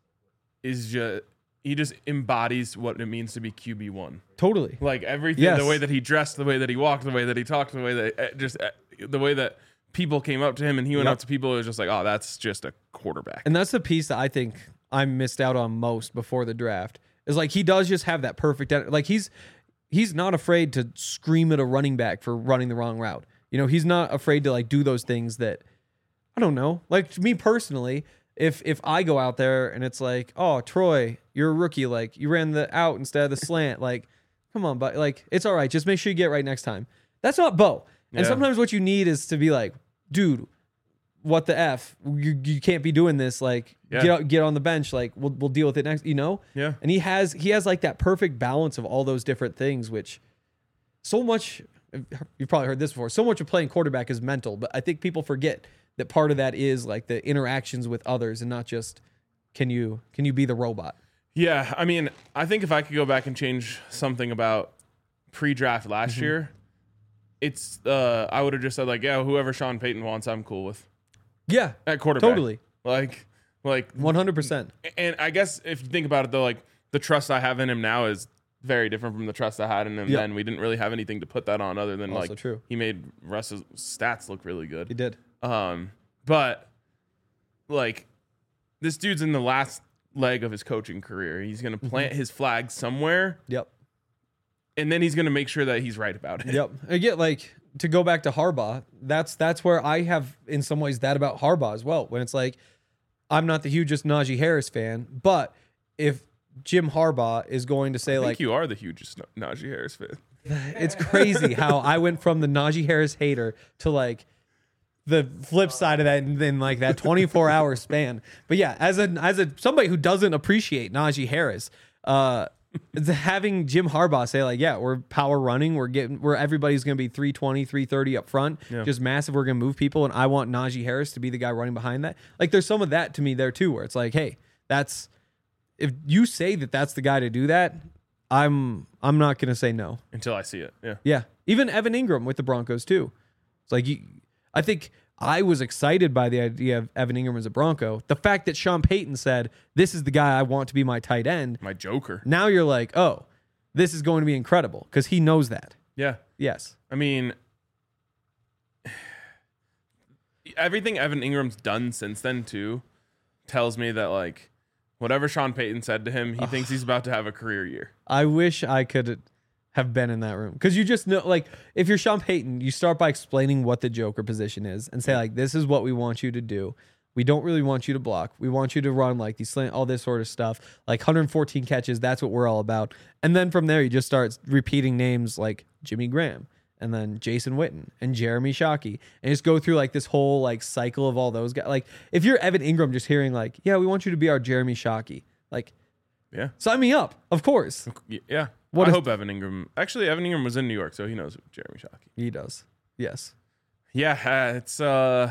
is just, he just embodies what it means to be Q B one. Totally. Like everything, Yes. the way that he dressed, the way that he walked, the way that he talked, the way that uh, just uh, the way that people came up to him and he went Yep. up to people. It was just like, oh, that's just a quarterback. And that's the piece that I think I missed out on most before the draft. Is like he does just have that perfect, like he's he's not afraid to scream at a running back for running the wrong route. You know, he's not afraid to like do those things that I don't know. Like me personally, if if I go out there and it's like, oh, Troy, you're a rookie, like you ran the out instead of the slant, like, come on, but like it's all right. Just make sure you get it right next time. That's not Bo. And Yeah. sometimes what you need is to be like, dude, what the F? You you can't be doing this. Like Yeah. get out, get on the bench. Like we'll we'll deal with it next. You know. Yeah. And he has he has like that perfect balance of all those different things, which so much. You've probably heard this before. So much of playing quarterback is mental, but I think people forget that part of that is like the interactions with others and not just can you can you be the robot. Yeah, I mean, I think if I could go back and change something about pre-draft last Mm-hmm. year, it's uh, I would have just said like, yeah, whoever Sean Payton wants, I'm cool with Yeah, at quarterback. totally. Like, like, one hundred percent. and I guess if you think about it though, like the trust I have in him now is very different from the trust I had in him Yeah. then. We didn't really have anything to put that on other than Also like true. he made Russ's stats look really He good. did. Um, but like this dude's in the last leg of his coaching career. He's gonna plant his flag somewhere, Yep. and then he's gonna make sure that he's right about it. Yep. I get like to go back to Harbaugh. That's that's where I have in some ways that about Harbaugh as well. When it's like, I'm not the hugest Najee Harris fan, but if Jim Harbaugh is going to say I think like, you are the hugest Najee Harris fan. it's crazy how I went from the Najee Harris hater to like the flip side of that in, in like that twenty-four hour span. But yeah, as a as a somebody who doesn't appreciate Najee Harris, uh, it's having Jim Harbaugh say like, yeah, we're power running, we're getting, we're everybody's gonna be three twenty, three thirty up front, Yeah. just massive. We're gonna move people, and I want Najee Harris to be the guy running behind that. Like, there's some of that to me there too, where it's like, hey, that's if you say that that's the guy to do that, I'm I'm not gonna say no. Until I see it. Yeah. Yeah, even Evan Ingram with the Broncos too. It's like you, I think I was excited by the idea of Evan Ingram as a Bronco. The fact that Sean Payton said, "This is the guy I want to be my tight end." My Joker. Now you're like, "Oh, this is going to be incredible," because he knows that. Yeah. Yes. I mean, everything Evan Ingram's done since then too tells me that like whatever Sean Payton said to him, he thinks he's about to have a career year. I wish I could have been in that room, because you just know, like, if you're Sean Payton, you start by explaining what the Joker position is and say like, this is what we want you to do. We don't really want you to block. We want you to run like these slant, all this sort of stuff, like one hundred fourteen catches. That's what we're all about. And then from there, you just start repeating names like Jimmy Graham and then Jason Witten and Jeremy Shockey, and just go through like this whole like cycle of all those guys. Like, if you're Evan Ingram, just hearing like, yeah, we want you to be our Jeremy Shockey, like, Yeah. sign me up, of course. Y- Yeah. What I if- hope Evan Ingram. Actually, Evan Ingram was in New York, so he knows Jeremy Shockey. He does. Yes. Yeah, uh, it's uh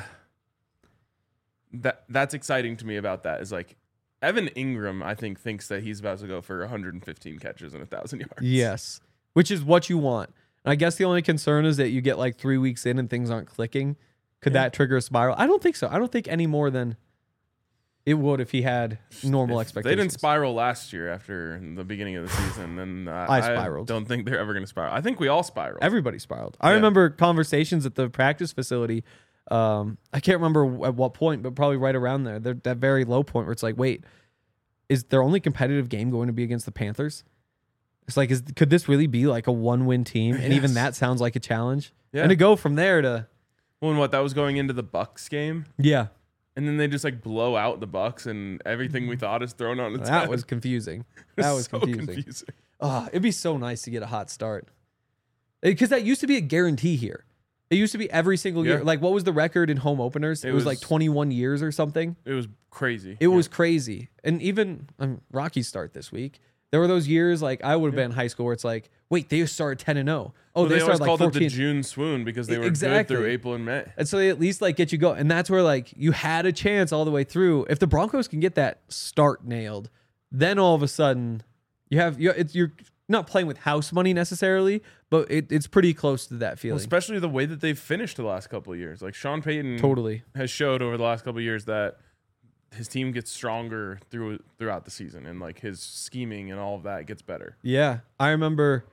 that that's exciting to me about that is like Evan Ingram, I think, thinks that he's about to go for one hundred fifteen catches and a thousand yards. Yes, which is what you want. And I guess the only concern is that you get like three weeks in and things aren't clicking. Could Yeah. that trigger a spiral? I don't think so. I don't think any more than it would if he had normal If expectations. They didn't spiral last year after the beginning of the season, and uh, I spiraled. don't think they're ever going to spiral. I think we all spiraled. Everybody spiraled. I Yeah. remember conversations at the practice facility. Um, I can't remember at what point, but probably right around there. They're, that very low point where it's like, wait, is their only competitive game going to be against the Panthers? It's like, is could this really be like a one-win team? And even Yes. that sounds like a challenge. Yeah. And to go from there to Well, and what that was going into the Bucks game, yeah, and then they just like blow out the Bucks, and everything we thought is thrown on its that head. was confusing. It That was so confusing. Oh, it'd be so nice to get a hot start, because that used to be a guarantee here. It used to be every single year. Yeah. Like, what was the record in home openers? It, It was, like was- twenty-one years or something. It was crazy. It Yeah. was crazy. And even um, Rockies start this week. There were those years, like I would have been in high school, where it's like, wait, they started ten and zero. Oh, Well, they, they, always started like called fourteen. it the June swoon because they were Exactly. good through April and May. And so they at least like get you going. And that's where like you had a chance all the way through. If the Broncos can get that start nailed, then all of a sudden you have you it's you're not playing with house money necessarily, but it, it's pretty close to that Well, feeling. especially the way that they've finished the last couple of years. Like Sean Payton Totally. has showed over the last couple of years that his team gets stronger through throughout the season, and like his scheming and all of that gets better. Yeah. I remember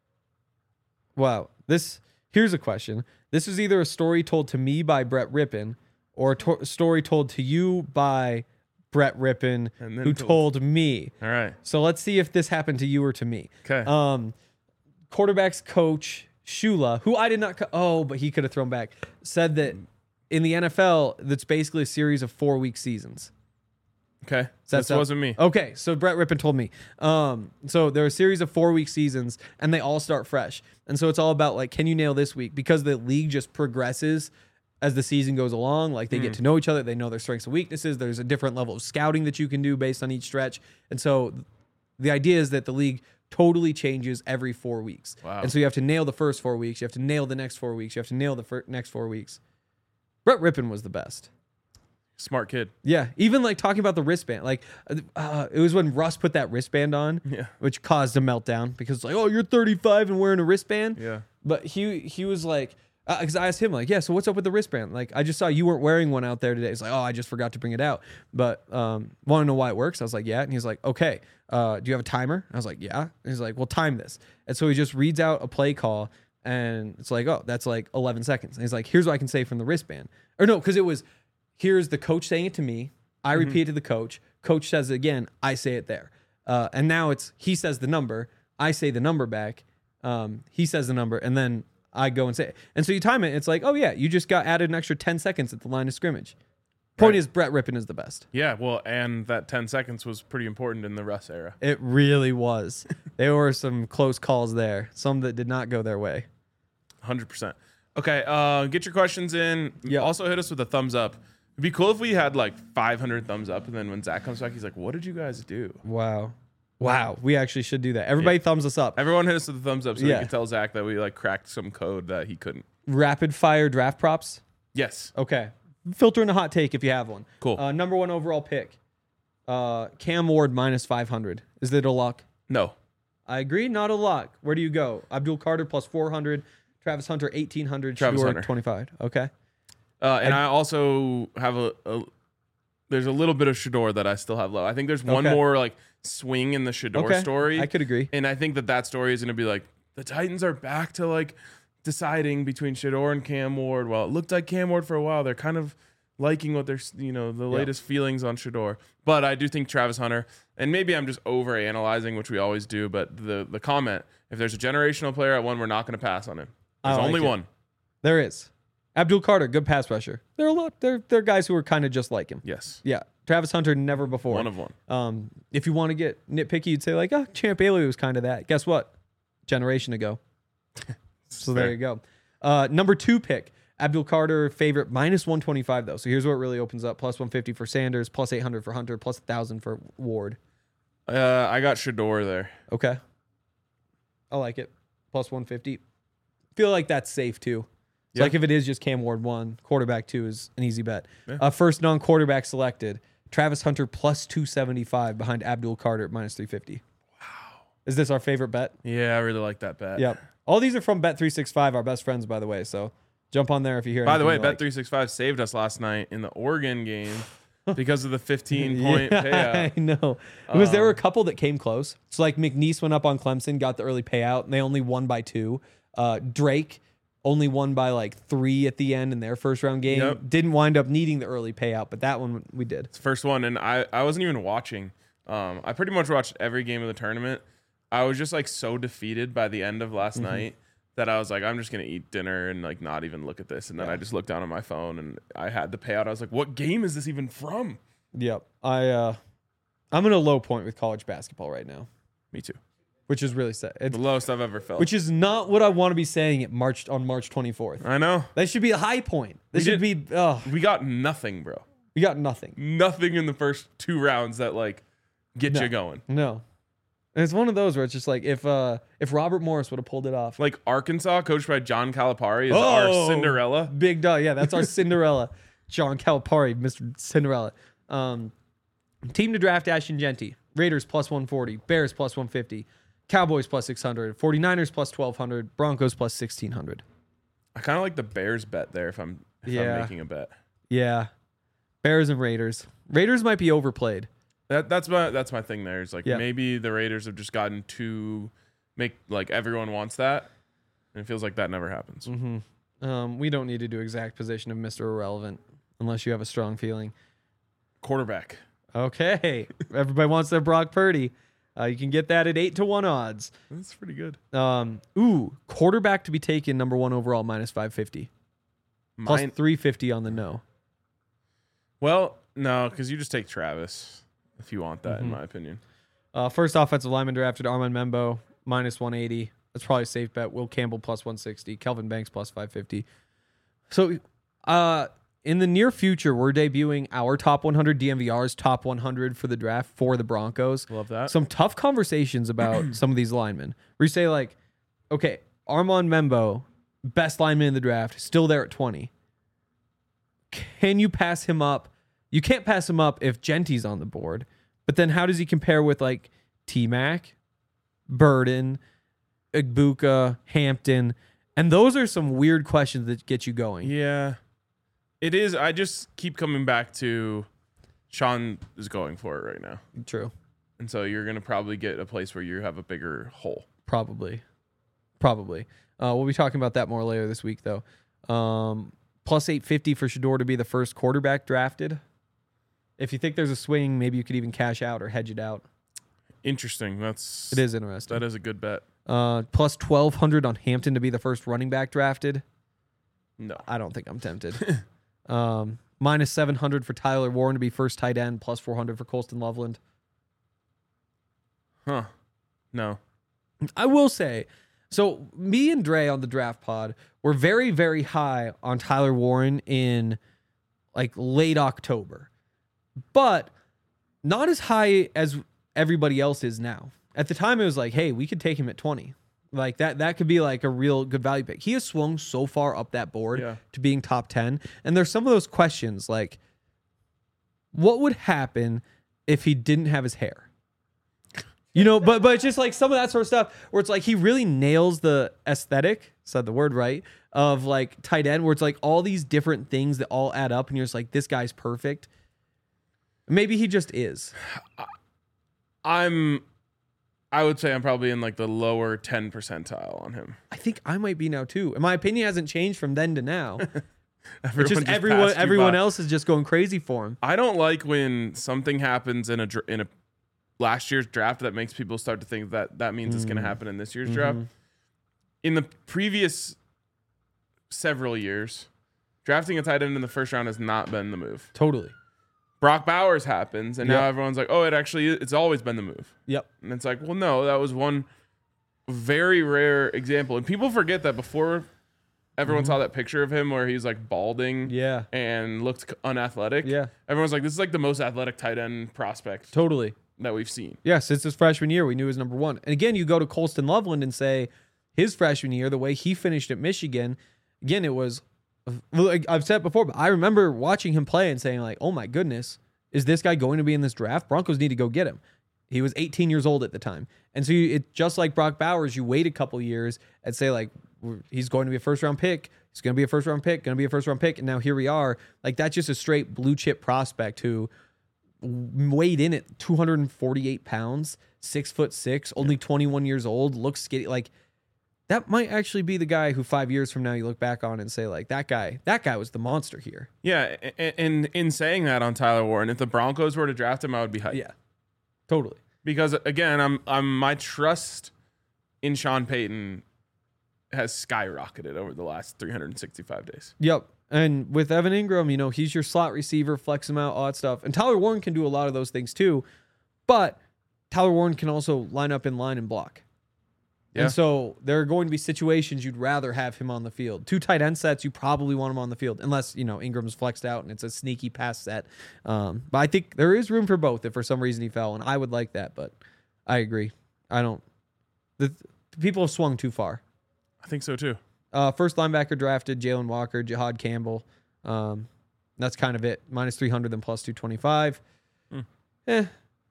wow. This here's a question. This was either a story told to me by Brett Rippon or a to- story told to you by Brett Rippon, And then who told- told me. All right. So let's see if this happened to you or to me. Okay. Um, quarterbacks coach Shula, who I did not, co- oh, but he could have thrown back, said that in the N F L, that's basically a series of four week seasons. Okay. Does that This sound- wasn't me. Okay, so Brett Rippon told me. Um, so there are a series of four week seasons, and they all start fresh. And so it's all about like, can you nail this week? Because the league just progresses as the season goes along. Like they get to know each other, they know their strengths and weaknesses. There's a different level of scouting that you can do based on each stretch. And so the idea is that the league totally changes every four weeks. Wow. And so you have to nail the first four weeks. You have to nail the next four weeks. You have to nail the fir- next four weeks. Brett Rippon was the best. Smart kid. Yeah, even like talking about the wristband, like uh, it was when Russ put that wristband on, Yeah. which caused a meltdown because it's like, oh, you're thirty-five and wearing a wristband. Yeah. But he he was like, because I asked him like, yeah, so what's up with the wristband? Like, I just saw you weren't wearing one out there today. It's like, oh, I just forgot to bring it out. But um, want to know why it works? I was like, yeah. And he's like, okay, uh, do you have a timer? I was like, yeah. And he's like, well, time this. And so he just reads out a play call, and it's like, oh, that's like eleven seconds. And he's like, here's what I can say from the wristband. Or no, because it was, here's the coach saying it to me. I Mm-hmm. repeat it to the coach. Coach says it again. I say it there. Uh, and now it's he says the number. I say the number back. Um, he says the number, and then I go and say it. And so you time it. It's like, oh yeah, you just got added an extra ten seconds at the line of scrimmage. Point Right. is, Brett Rippon is the best. Yeah, well, and that ten seconds was pretty important in the Russ era. It really was. There were some close calls there. Some that did not go their way. one hundred percent. Okay, uh, get your questions in. Yeah. Also hit us with a thumbs up. It'd be cool if we had like five hundred thumbs up, and then when Zach comes back, he's like, what did you guys do? Wow. Wow. We actually should do that. Everybody thumbs us up. Everyone hit us with a thumbs up so Yeah. we can tell Zach that we like cracked some code that he couldn't. Rapid fire draft props. Yes. Okay. Filter in a hot take if you have one. Cool. Uh, number one overall pick. Uh, Cam Ward minus five hundred. Is it a lock? No. I agree. Not a lock. Where do you go? Abdul Carter plus four hundred. Travis Hunter eighteen hundred. Travis Shador Hunter. twenty-five. Okay. Uh, and I, also have a, a there's a little bit of Shador that I still have low. I think there's one Okay. more like swing in the Shador Okay. story. I could agree. And I think that that story is going to be like the Titans are back to like deciding between Shador and Cam Ward. Well, it looked like Cam Ward for a while. They're kind of liking what they're, you know, the Yeah. latest feelings on Shador. But I do think Travis Hunter, and maybe I'm just over analyzing, which we always do. But the the comment, if there's a generational player at one, we're not going to pass on him. I There's like only it. one. There is. Abdul Carter, good pass rusher. There are a lot. There, there are guys who are kind of just like him. Yes. Yeah. Travis Hunter, never before. One of one. Um, if you want to get nitpicky, you'd say like, oh, Champ Bailey was kind of that. Guess what? Generation ago. So there Fair. you go. Uh, number two pick, Abdul Carter, favorite, minus one twenty-five though. So here's what it really opens up. Plus one fifty for Sanders, plus eight hundred for Hunter, plus one thousand for Ward. Uh, I got Shador there. Okay. I like it. Plus one fifty. Feel like that's safe too. It's Yeah. like if it is just Cam Ward one, quarterback two is an easy bet. Yeah. Uh, first non-quarterback selected, Travis Hunter plus two seventy-five behind Abdul Carter at minus three fifty. Wow. Is this our favorite bet? Yeah, I really like that bet. Yep. All these are from Bet three sixty-five, our best friends, by the way. So jump on there if you hear By the anything way, you Bet like. three sixty-five saved us last night in the Oregon game because of the fifteen point Yeah, payout. I know. It was there were a Um, couple that came close. So like McNeese went up on Clemson, got the early payout, and they only won by two. Uh, Drake only won by like three at the end in their first round game. Yep. Didn't wind up needing the early payout, but that one we did. It's the first one, and I, I wasn't even watching. Um, I pretty much watched every game of the tournament. I was just like so defeated by the end of last Mm-hmm. night that I was like, I'm just gonna eat dinner and like not even look at this. And then Yeah. I just looked down on my phone and I had the payout. I was like, what game is this even from? Yep. I uh, I'm in a low point with college basketball right now, Me too. which is really sad. It's, The lowest I've ever felt. which is not what I want to be saying at March on March twenty-fourth. I know. That should be a high point. This We should be. Oh, We got nothing, bro. we got nothing. Nothing in the first two rounds that like get No. you going. No. And it's one of those where it's just like if uh if Robert Morris would have pulled it off. Like Arkansas, coached by John Calipari, is Oh! our Cinderella. Big dog. Yeah, that's our Cinderella. John Calipari, Mister Cinderella. Um, team to draft Ashton Genty. Raiders plus one forty. Bears plus one fifty. Cowboys plus six hundred. 49ers plus twelve hundred. Broncos plus sixteen hundred. I kind of like the Bears bet there if I'm if Yeah. I'm making a bet. Yeah. Bears and Raiders. Raiders might be overplayed. That that's my that's my thing there. Is like Yeah. maybe the Raiders have just gotten too make like everyone wants that, and it feels like that never happens. Mm-hmm. Um, we don't need to do exact position of Mister Irrelevant unless you have a strong feeling. Quarterback. Okay. Everybody wants their Brock Purdy. Uh, you can get that at eight to one odds. That's pretty good. Um, ooh, quarterback to be taken number one overall minus five fifty. Plus Mine, three fifty on the no. well, no, because you just take Travis if you want that, Mm-hmm. in my opinion. Uh, first offensive lineman drafted Armand Membo minus one eighty. That's probably a safe bet. Will Campbell plus one sixty. Kelvin Banks plus five fifty. So, uh, in the near future, we're debuting our top one hundred, D M V R's top one hundred for the draft for the Broncos. Love that. Some tough conversations about some of these linemen. Where you say like, okay, Armand Membo, best lineman in the draft, still there at twenty. Can you pass him up You can't pass him up if Genty's on the board. But then how does he compare with like T-Mac, Burden, Igbokwe, Hampton? And those are some weird questions that get you going. Yeah, it is. I just keep coming back to Sean is going for it right now. True. And so you're going to probably get a place where you have a bigger hole. Probably. Probably. Uh, we'll be talking about that more later this week, though. Um, plus eight fifty for Shedeur to be the first quarterback drafted. If you think there's a swing, maybe you could even cash out or hedge it out. Interesting. That's It is interesting. That is a good bet. Uh, plus twelve hundred on Hampton to be the first running back drafted. No. I don't think I'm tempted. um, minus seven hundred for Tyler Warren to be first tight end. Plus four hundred for Colston Loveland. Huh. No. I will say, so me and Dre on the draft pod were very, very high on Tyler Warren in like late October, but not as high as everybody else is now. At the time, it was like, hey, we could take him at twenty. Like that, that could be like a real good value pick. He has swung so far up that board Yeah. to being top ten. And there's some of those questions like, what would happen if he didn't have his hair? You know, but but it's just like some of that sort of stuff where it's like he really nails the aesthetic, said the word right, of like tight end, where it's like all these different things that all add up, and you're just like, this guy's perfect. Maybe he just is. I'm, I would say I'm probably in like the lower ten percentile on him. I think I might be now too. And my opinion hasn't changed from then to now. Everyone It's just, just everyone passed you everyone by. else is just going crazy for him. I don't like when something happens in a dr- in a last year's draft that makes people start to think that that means it's going to happen in this year's draft. In the previous several years, drafting a tight end in the first round has not been the move. Totally. Brock Bowers happens, and Yep. now everyone's like, "Oh, it actually it's always been the move." Yep. And it's like, well, no, that was one very rare example, and people forget that before everyone saw that picture of him where he's like balding, Yeah. and looked unathletic. Yeah. Everyone's like, this is like the most athletic tight end prospect Totally. that we've seen. Yeah, since his freshman year, we knew he was number one. And again, you go to Colston Loveland and say his freshman year, the way he finished at Michigan, again, it was, like I've said before, but I remember watching him play and saying like, oh my goodness, is this guy going to be in this draft? Broncos need to go get him. He was eighteen years old at the time. And so you, it just like Brock Bowers, you wait a couple years and say like, he's going to be a first round pick. He's going to be a first round pick, going to be a first round pick. And now here we are. Like that's just a straight blue chip prospect who weighed in at two hundred forty-eight pounds, six foot six, only twenty-one years old, looks skinny. Like that might actually be the guy who five years from now you look back on and say like that guy, that guy was the monster here. Yeah, and in, in saying that on Tyler Warren, if the Broncos were to draft him, I would be hyped. Yeah, totally. Because again, I'm I'm my trust in Sean Payton has skyrocketed over the last three hundred sixty-five days. Yep. And with Evan Ingram, you know, he's your slot receiver, flex him out, all that stuff. And Tyler Warren can do a lot of those things too. But Tyler Warren can also line up in line and block. Yeah. And so there are going to be situations you'd rather have him on the field. Two tight end sets, you probably want him on the field, unless, you know, Ingram's flexed out and it's a sneaky pass set. Um, but I think there is room for both if for some reason he fell, and I would like that, but I agree. I don't. The, the people have swung too far. I think so too. Uh, first linebacker drafted, Jalen Walker, Jihad Campbell. Um, that's kind of it. Minus three hundred and plus two twenty-five. Hmm. Eh.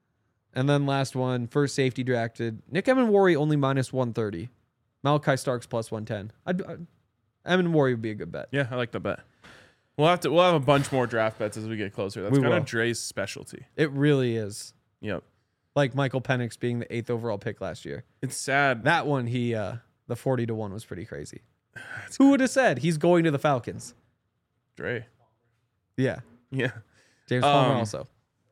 And then last one, first safety drafted, Nick Emenwari only minus one thirty. Malachi Starks plus one ten. I'd, I'd, Emenwari would be a good bet. Yeah, I like the bet. We'll have to. We'll have a bunch more draft bets as we get closer. That's We kind will. of Dre's specialty. It really is. Yep. Like Michael Penix being the eighth overall pick last year. It's sad. That one, he uh, the forty to one was pretty crazy. Who would have said he's going to the Falcons? Dre. Yeah. Yeah. James Palmer Um, also.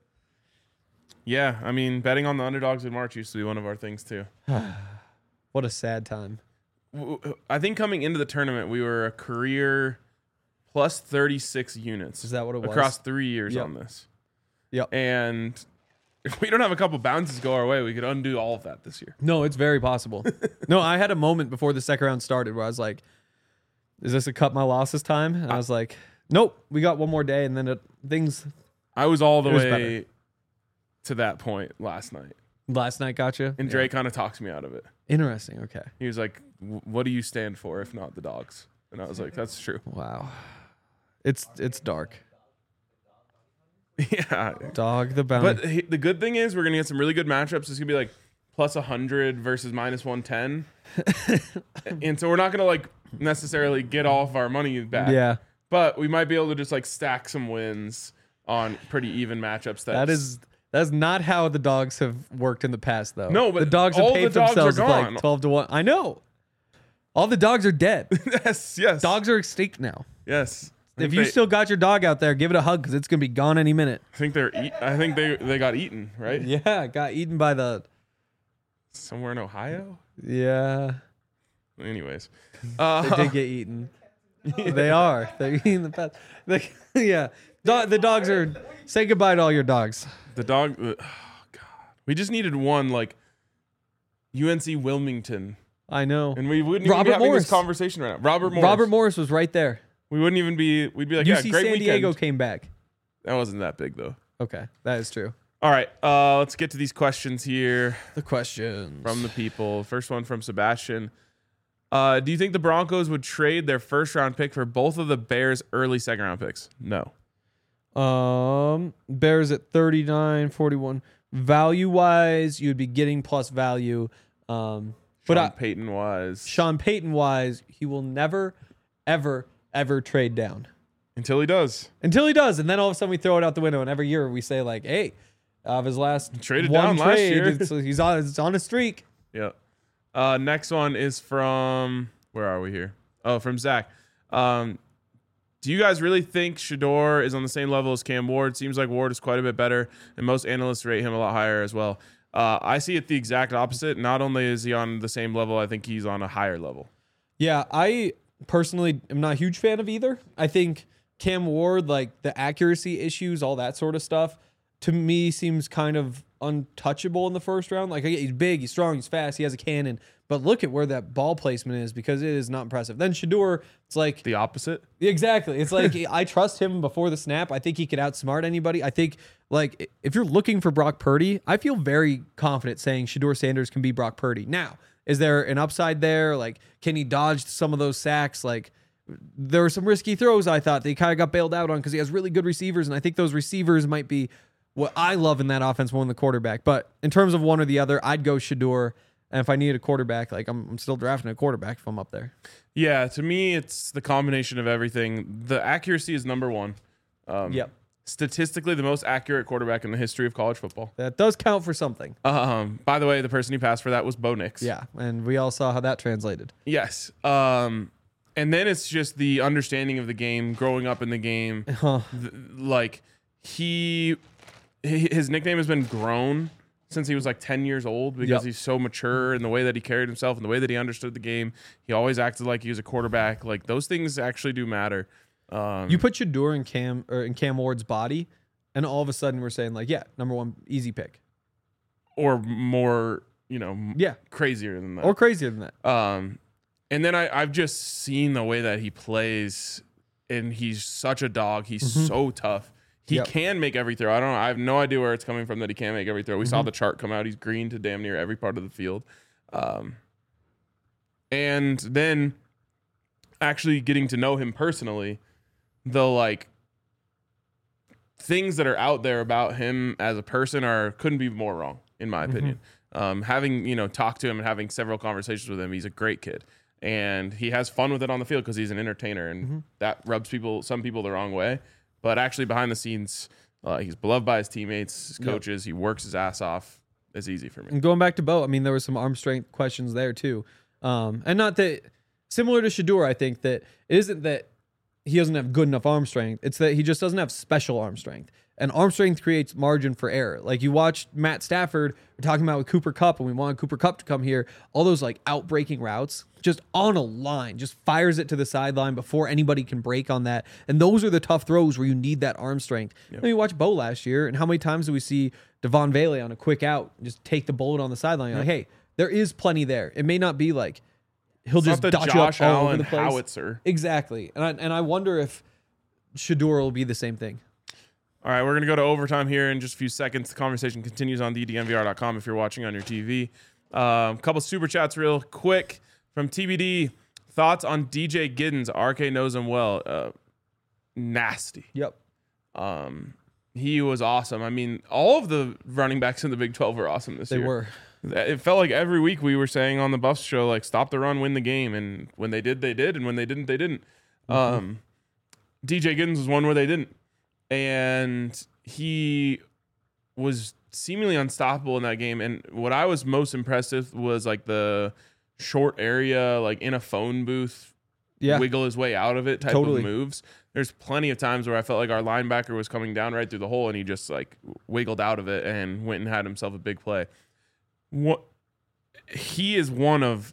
Yeah. I mean, betting on the underdogs in March used to be one of our things too. What a sad time. W- w- I think coming into the tournament, we were a career plus thirty-six units. Is that what it was? across three years Yep. on this? Yep. And if we don't have a couple bounces go our way, we could undo all of that this year. No, it's very possible. No, I had a moment before the second round started where I was like, is this a cut my losses time? And I was like, nope, we got one more day. And then it, things I was all the It was way better. to that point last night. last night got you. And Dre kind of talks me out of it. Interesting. Okay. He was like, "W- what do you stand for if not the dogs? And I was like, that's true. Wow. It's it's dark. Yeah. Dog the bounty. But he- the good thing is we're going to get some really good matchups. It's going to be like plus one hundred versus minus one ten. And so we're not going to like necessarily get all of our money back. yeah, But we might be able to just like stack some wins on pretty even matchups. That's, that is that's not how the dogs have worked in the past, though. No, but the dogs have all paid the dogs are themselves with, like gone. twelve to one. I know. All the dogs are dead. yes, yes. Dogs are extinct now. Yes. I If think you they- still got your dog out there, give it a hug because it's gonna be gone any minute. I think they're eat, I think they they got eaten, right? Yeah, got eaten by the. Somewhere in Ohio? Yeah, Anyways. they Uh, did get eaten. They are. They're eating the pets. They, yeah, Do- the dogs are. Say goodbye to all your dogs. the dog oh god. We just needed one like U N C Wilmington. I know. And we wouldn't Robert even be having Morris. this conversation right now. Robert Morris. Robert Morris was right there. We wouldn't even be we'd be like, U yeah, C great San weekend. Diego came back. That wasn't that big though. Okay, that is true. All right, uh, let's get to these questions here The questions from the people. First one from Sebastian. Uh, do you think the Broncos would trade their first round pick for both of the Bears' early second round picks? No. Um, Bears at thirty-nine, forty-one. Value wise, you'd be getting plus value. Um, but Sean I, Payton wise. Sean Payton wise, he will never, ever, ever trade down Until he does. until he does, and then all of a sudden we throw it out the window, and every year we say like, "Hey, of his last Traded one down last trade, year." it's- he's on, it's on a streak." Yeah. Uh, next one is from where are we here? Oh, from Zach. Um, do you guys really think Shador is on the same level as Cam Ward? Seems like Ward is quite a bit better, and most analysts rate him a lot higher as well. Uh, I see it the exact opposite. Not only is he on the same level, I think he's on a higher level. Yeah, I personally am not a huge fan of either. I think Cam Ward, like the accuracy issues, all that sort of stuff, to me seems kind of untouchable in the first round. Like, he's big, he's strong, he's fast, he has a cannon, but look at where that ball placement is because it is not impressive. Then Shador, it's like The opposite? exactly. It's like I trust him before the snap. I think he could outsmart anybody. I think like if you're looking for Brock Purdy, I feel very confident saying Shador Sanders can be Brock Purdy. Now, is there an upside there? Like, can he dodge some of those sacks? Like, there were some risky throws I thought that he kind of got bailed out on because he has really good receivers, and I think those receivers might be what I love in that offense more than the quarterback. But in terms of one or the other, I'd go Shador. And if I need a quarterback, like I'm, I'm still drafting a quarterback if I'm up there. Yeah, to me, it's the combination of everything. The accuracy is number one. Um, Yep. Statistically, the most accurate quarterback in the history of college football. That does count for something. Um, by the way, the person he passed for that was Bo Nix. Yeah, and we all saw how that translated. Yes. Um, and then it's just the understanding of the game, growing up in the game. Huh. Th- like he, hi- his nickname has been Grown since he was like ten years old because Yep. he's so mature in the way that he carried himself and the way that he understood the game. He always acted like he was a quarterback. Like those things actually do matter. Um, You put Shador in Cam or in Cam Ward's body, and all of a sudden we're saying like, yeah, number one, easy pick, or more, you know, m- yeah, crazier than that. or crazier than that. Um, and then I, I've just seen the way that he plays, and he's such a dog. He's so tough. He Yep. can make every throw. I don't know. I have no idea where it's coming from that he can't make every throw. We saw the chart come out. He's green to damn near every part of the field. Um, and then actually getting to know him personally, the like things that are out there about him as a person are couldn't be more wrong, in my opinion. Um, having, you know, talked to him and having several conversations with him, he's a great kid. And he has fun with it on the field because he's an entertainer, and that rubs people, some people, the wrong way. But actually, behind the scenes, uh, he's beloved by his teammates, his Yep. coaches. He works his ass off. It's easy for me. And going back to Bo, I mean, there was some arm strength questions there too. Um, and not that similar to Shador, I think that it isn't that he doesn't have good enough arm strength. It's that he just doesn't have special arm strength. And arm strength creates margin for error. Like you watched Matt Stafford, we're talking about with Cooper Kupp, and we wanted Cooper Kupp to come here. All those like outbreaking routes, just on a line, just fires it to the sideline before anybody can break on that. And those are the tough throws where you need that arm strength. Yep. Then you watch Bo last year, and how many times do we see Devon Vele on a quick out and just take the bullet on the sideline? You're like, hey, there is plenty there. It may not be like he'll It's just not the dodge Josh you up all over Allen the place. howitzer. Exactly. And I, and I wonder if Shador will be the same thing. All right, we're going to go to overtime here in just a few seconds. The conversation continues on the D N V R dot com if you're watching on your T V. A um, couple super chats real quick from T B D. Thoughts on D J Giddens? R K knows him well. Uh, nasty. Yep. Um, he was awesome. I mean, all of the running backs in the Big twelve were awesome this They year. were. It felt like every week we were saying on the Buffs show, like, stop the run, win the game. And when they did, they did. And when they didn't, they didn't. Mm-hmm. Um, D J Giddens was one where they didn't. And he was seemingly unstoppable in that game. And what I was most impressed with was, like, the short area, like, in a phone booth, Yeah. wiggle his way out of it type Totally. of moves. There's plenty of times where I felt like our linebacker was coming down right through the hole and he just, like, wiggled out of it and went and had himself a big play. What he is one of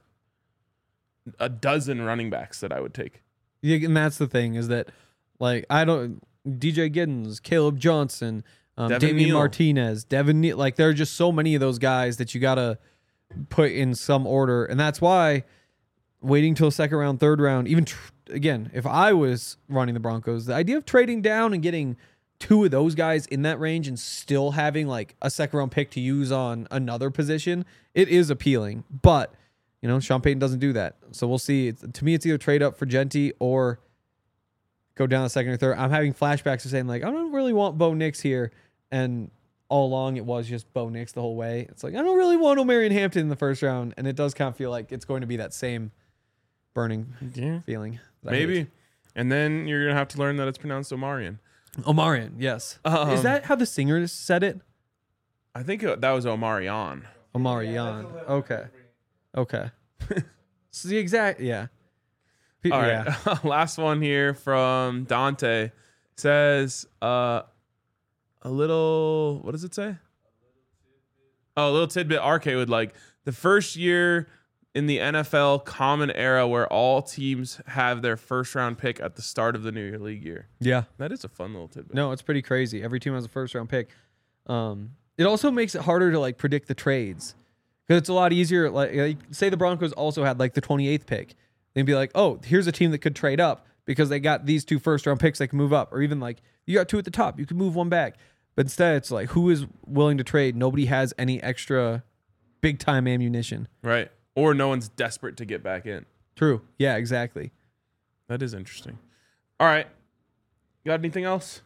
a dozen running backs that I would take. Yeah, and that's the thing is that, like, I don't D J Giddens, Caleb Johnson, um, Devin Damian Neal. Martinez, Devin Neal. Like, there are just so many of those guys that you gotta put in some order, and that's why waiting till second round, third round, even tr- again, if I was running the Broncos, the idea of trading down and getting two of those guys in that range and still having like a second round pick to use on another position, it is appealing. But, you know, Sean Payton doesn't do that. So we'll see. It's, to me, it's either trade up for Genty or go down the second or third. I'm having flashbacks of saying, like, I don't really want Bo Nix here. And all along, it was just Bo Nix the whole way. It's like, I don't really want Omarion Hampton in the first round. And it does kind of feel like it's going to be that same burning Yeah. feeling. that I Maybe. hate. And then you're going to have to learn that it's pronounced Omarion. Omarion, yes. Um, Is that how the singer said it? I think it- that was Omarion. Omarion. Okay. Okay. It's the exact, yeah. Pe- All yeah. right. Last one here from Dante says uh, a little, what does it say? Oh, a little tidbit R K would like. The first year in the N F L common era where all teams have their first round pick at the start of the new league year. Yeah. That is a fun little tidbit. No, it's pretty crazy. Every team has a first round pick. Um, it also makes it harder to like predict the trades because it's a lot easier. Like, like, say the Broncos also had like the twenty-eighth pick, they'd be like, oh, here's a team that could trade up because they got these two first round picks. They can move up, or even like you got two at the top, you can move one back. But instead, it's like who is willing to trade? Nobody has any extra big time ammunition. Right. Or no one's desperate to get back in. True. Yeah. Exactly. That is interesting. All right. Got anything else?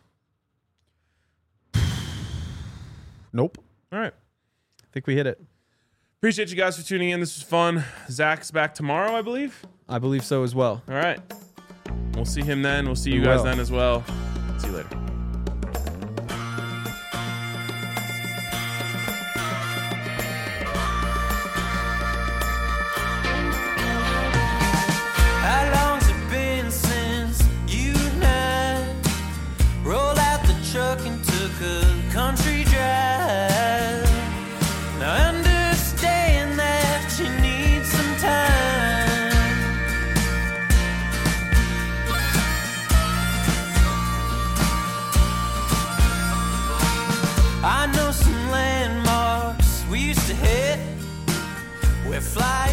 Nope. All right. I think we hit it. Appreciate you guys for tuning in. This was fun. Zach's back tomorrow, I believe. I believe so as well. All right. We'll see him then. We'll see you We guys will. then as well. See you later. How long's it been since you and I rolled out the truck and took a country drive? Now I understand that you need some time. I know some landmarks we used to hit. We're flying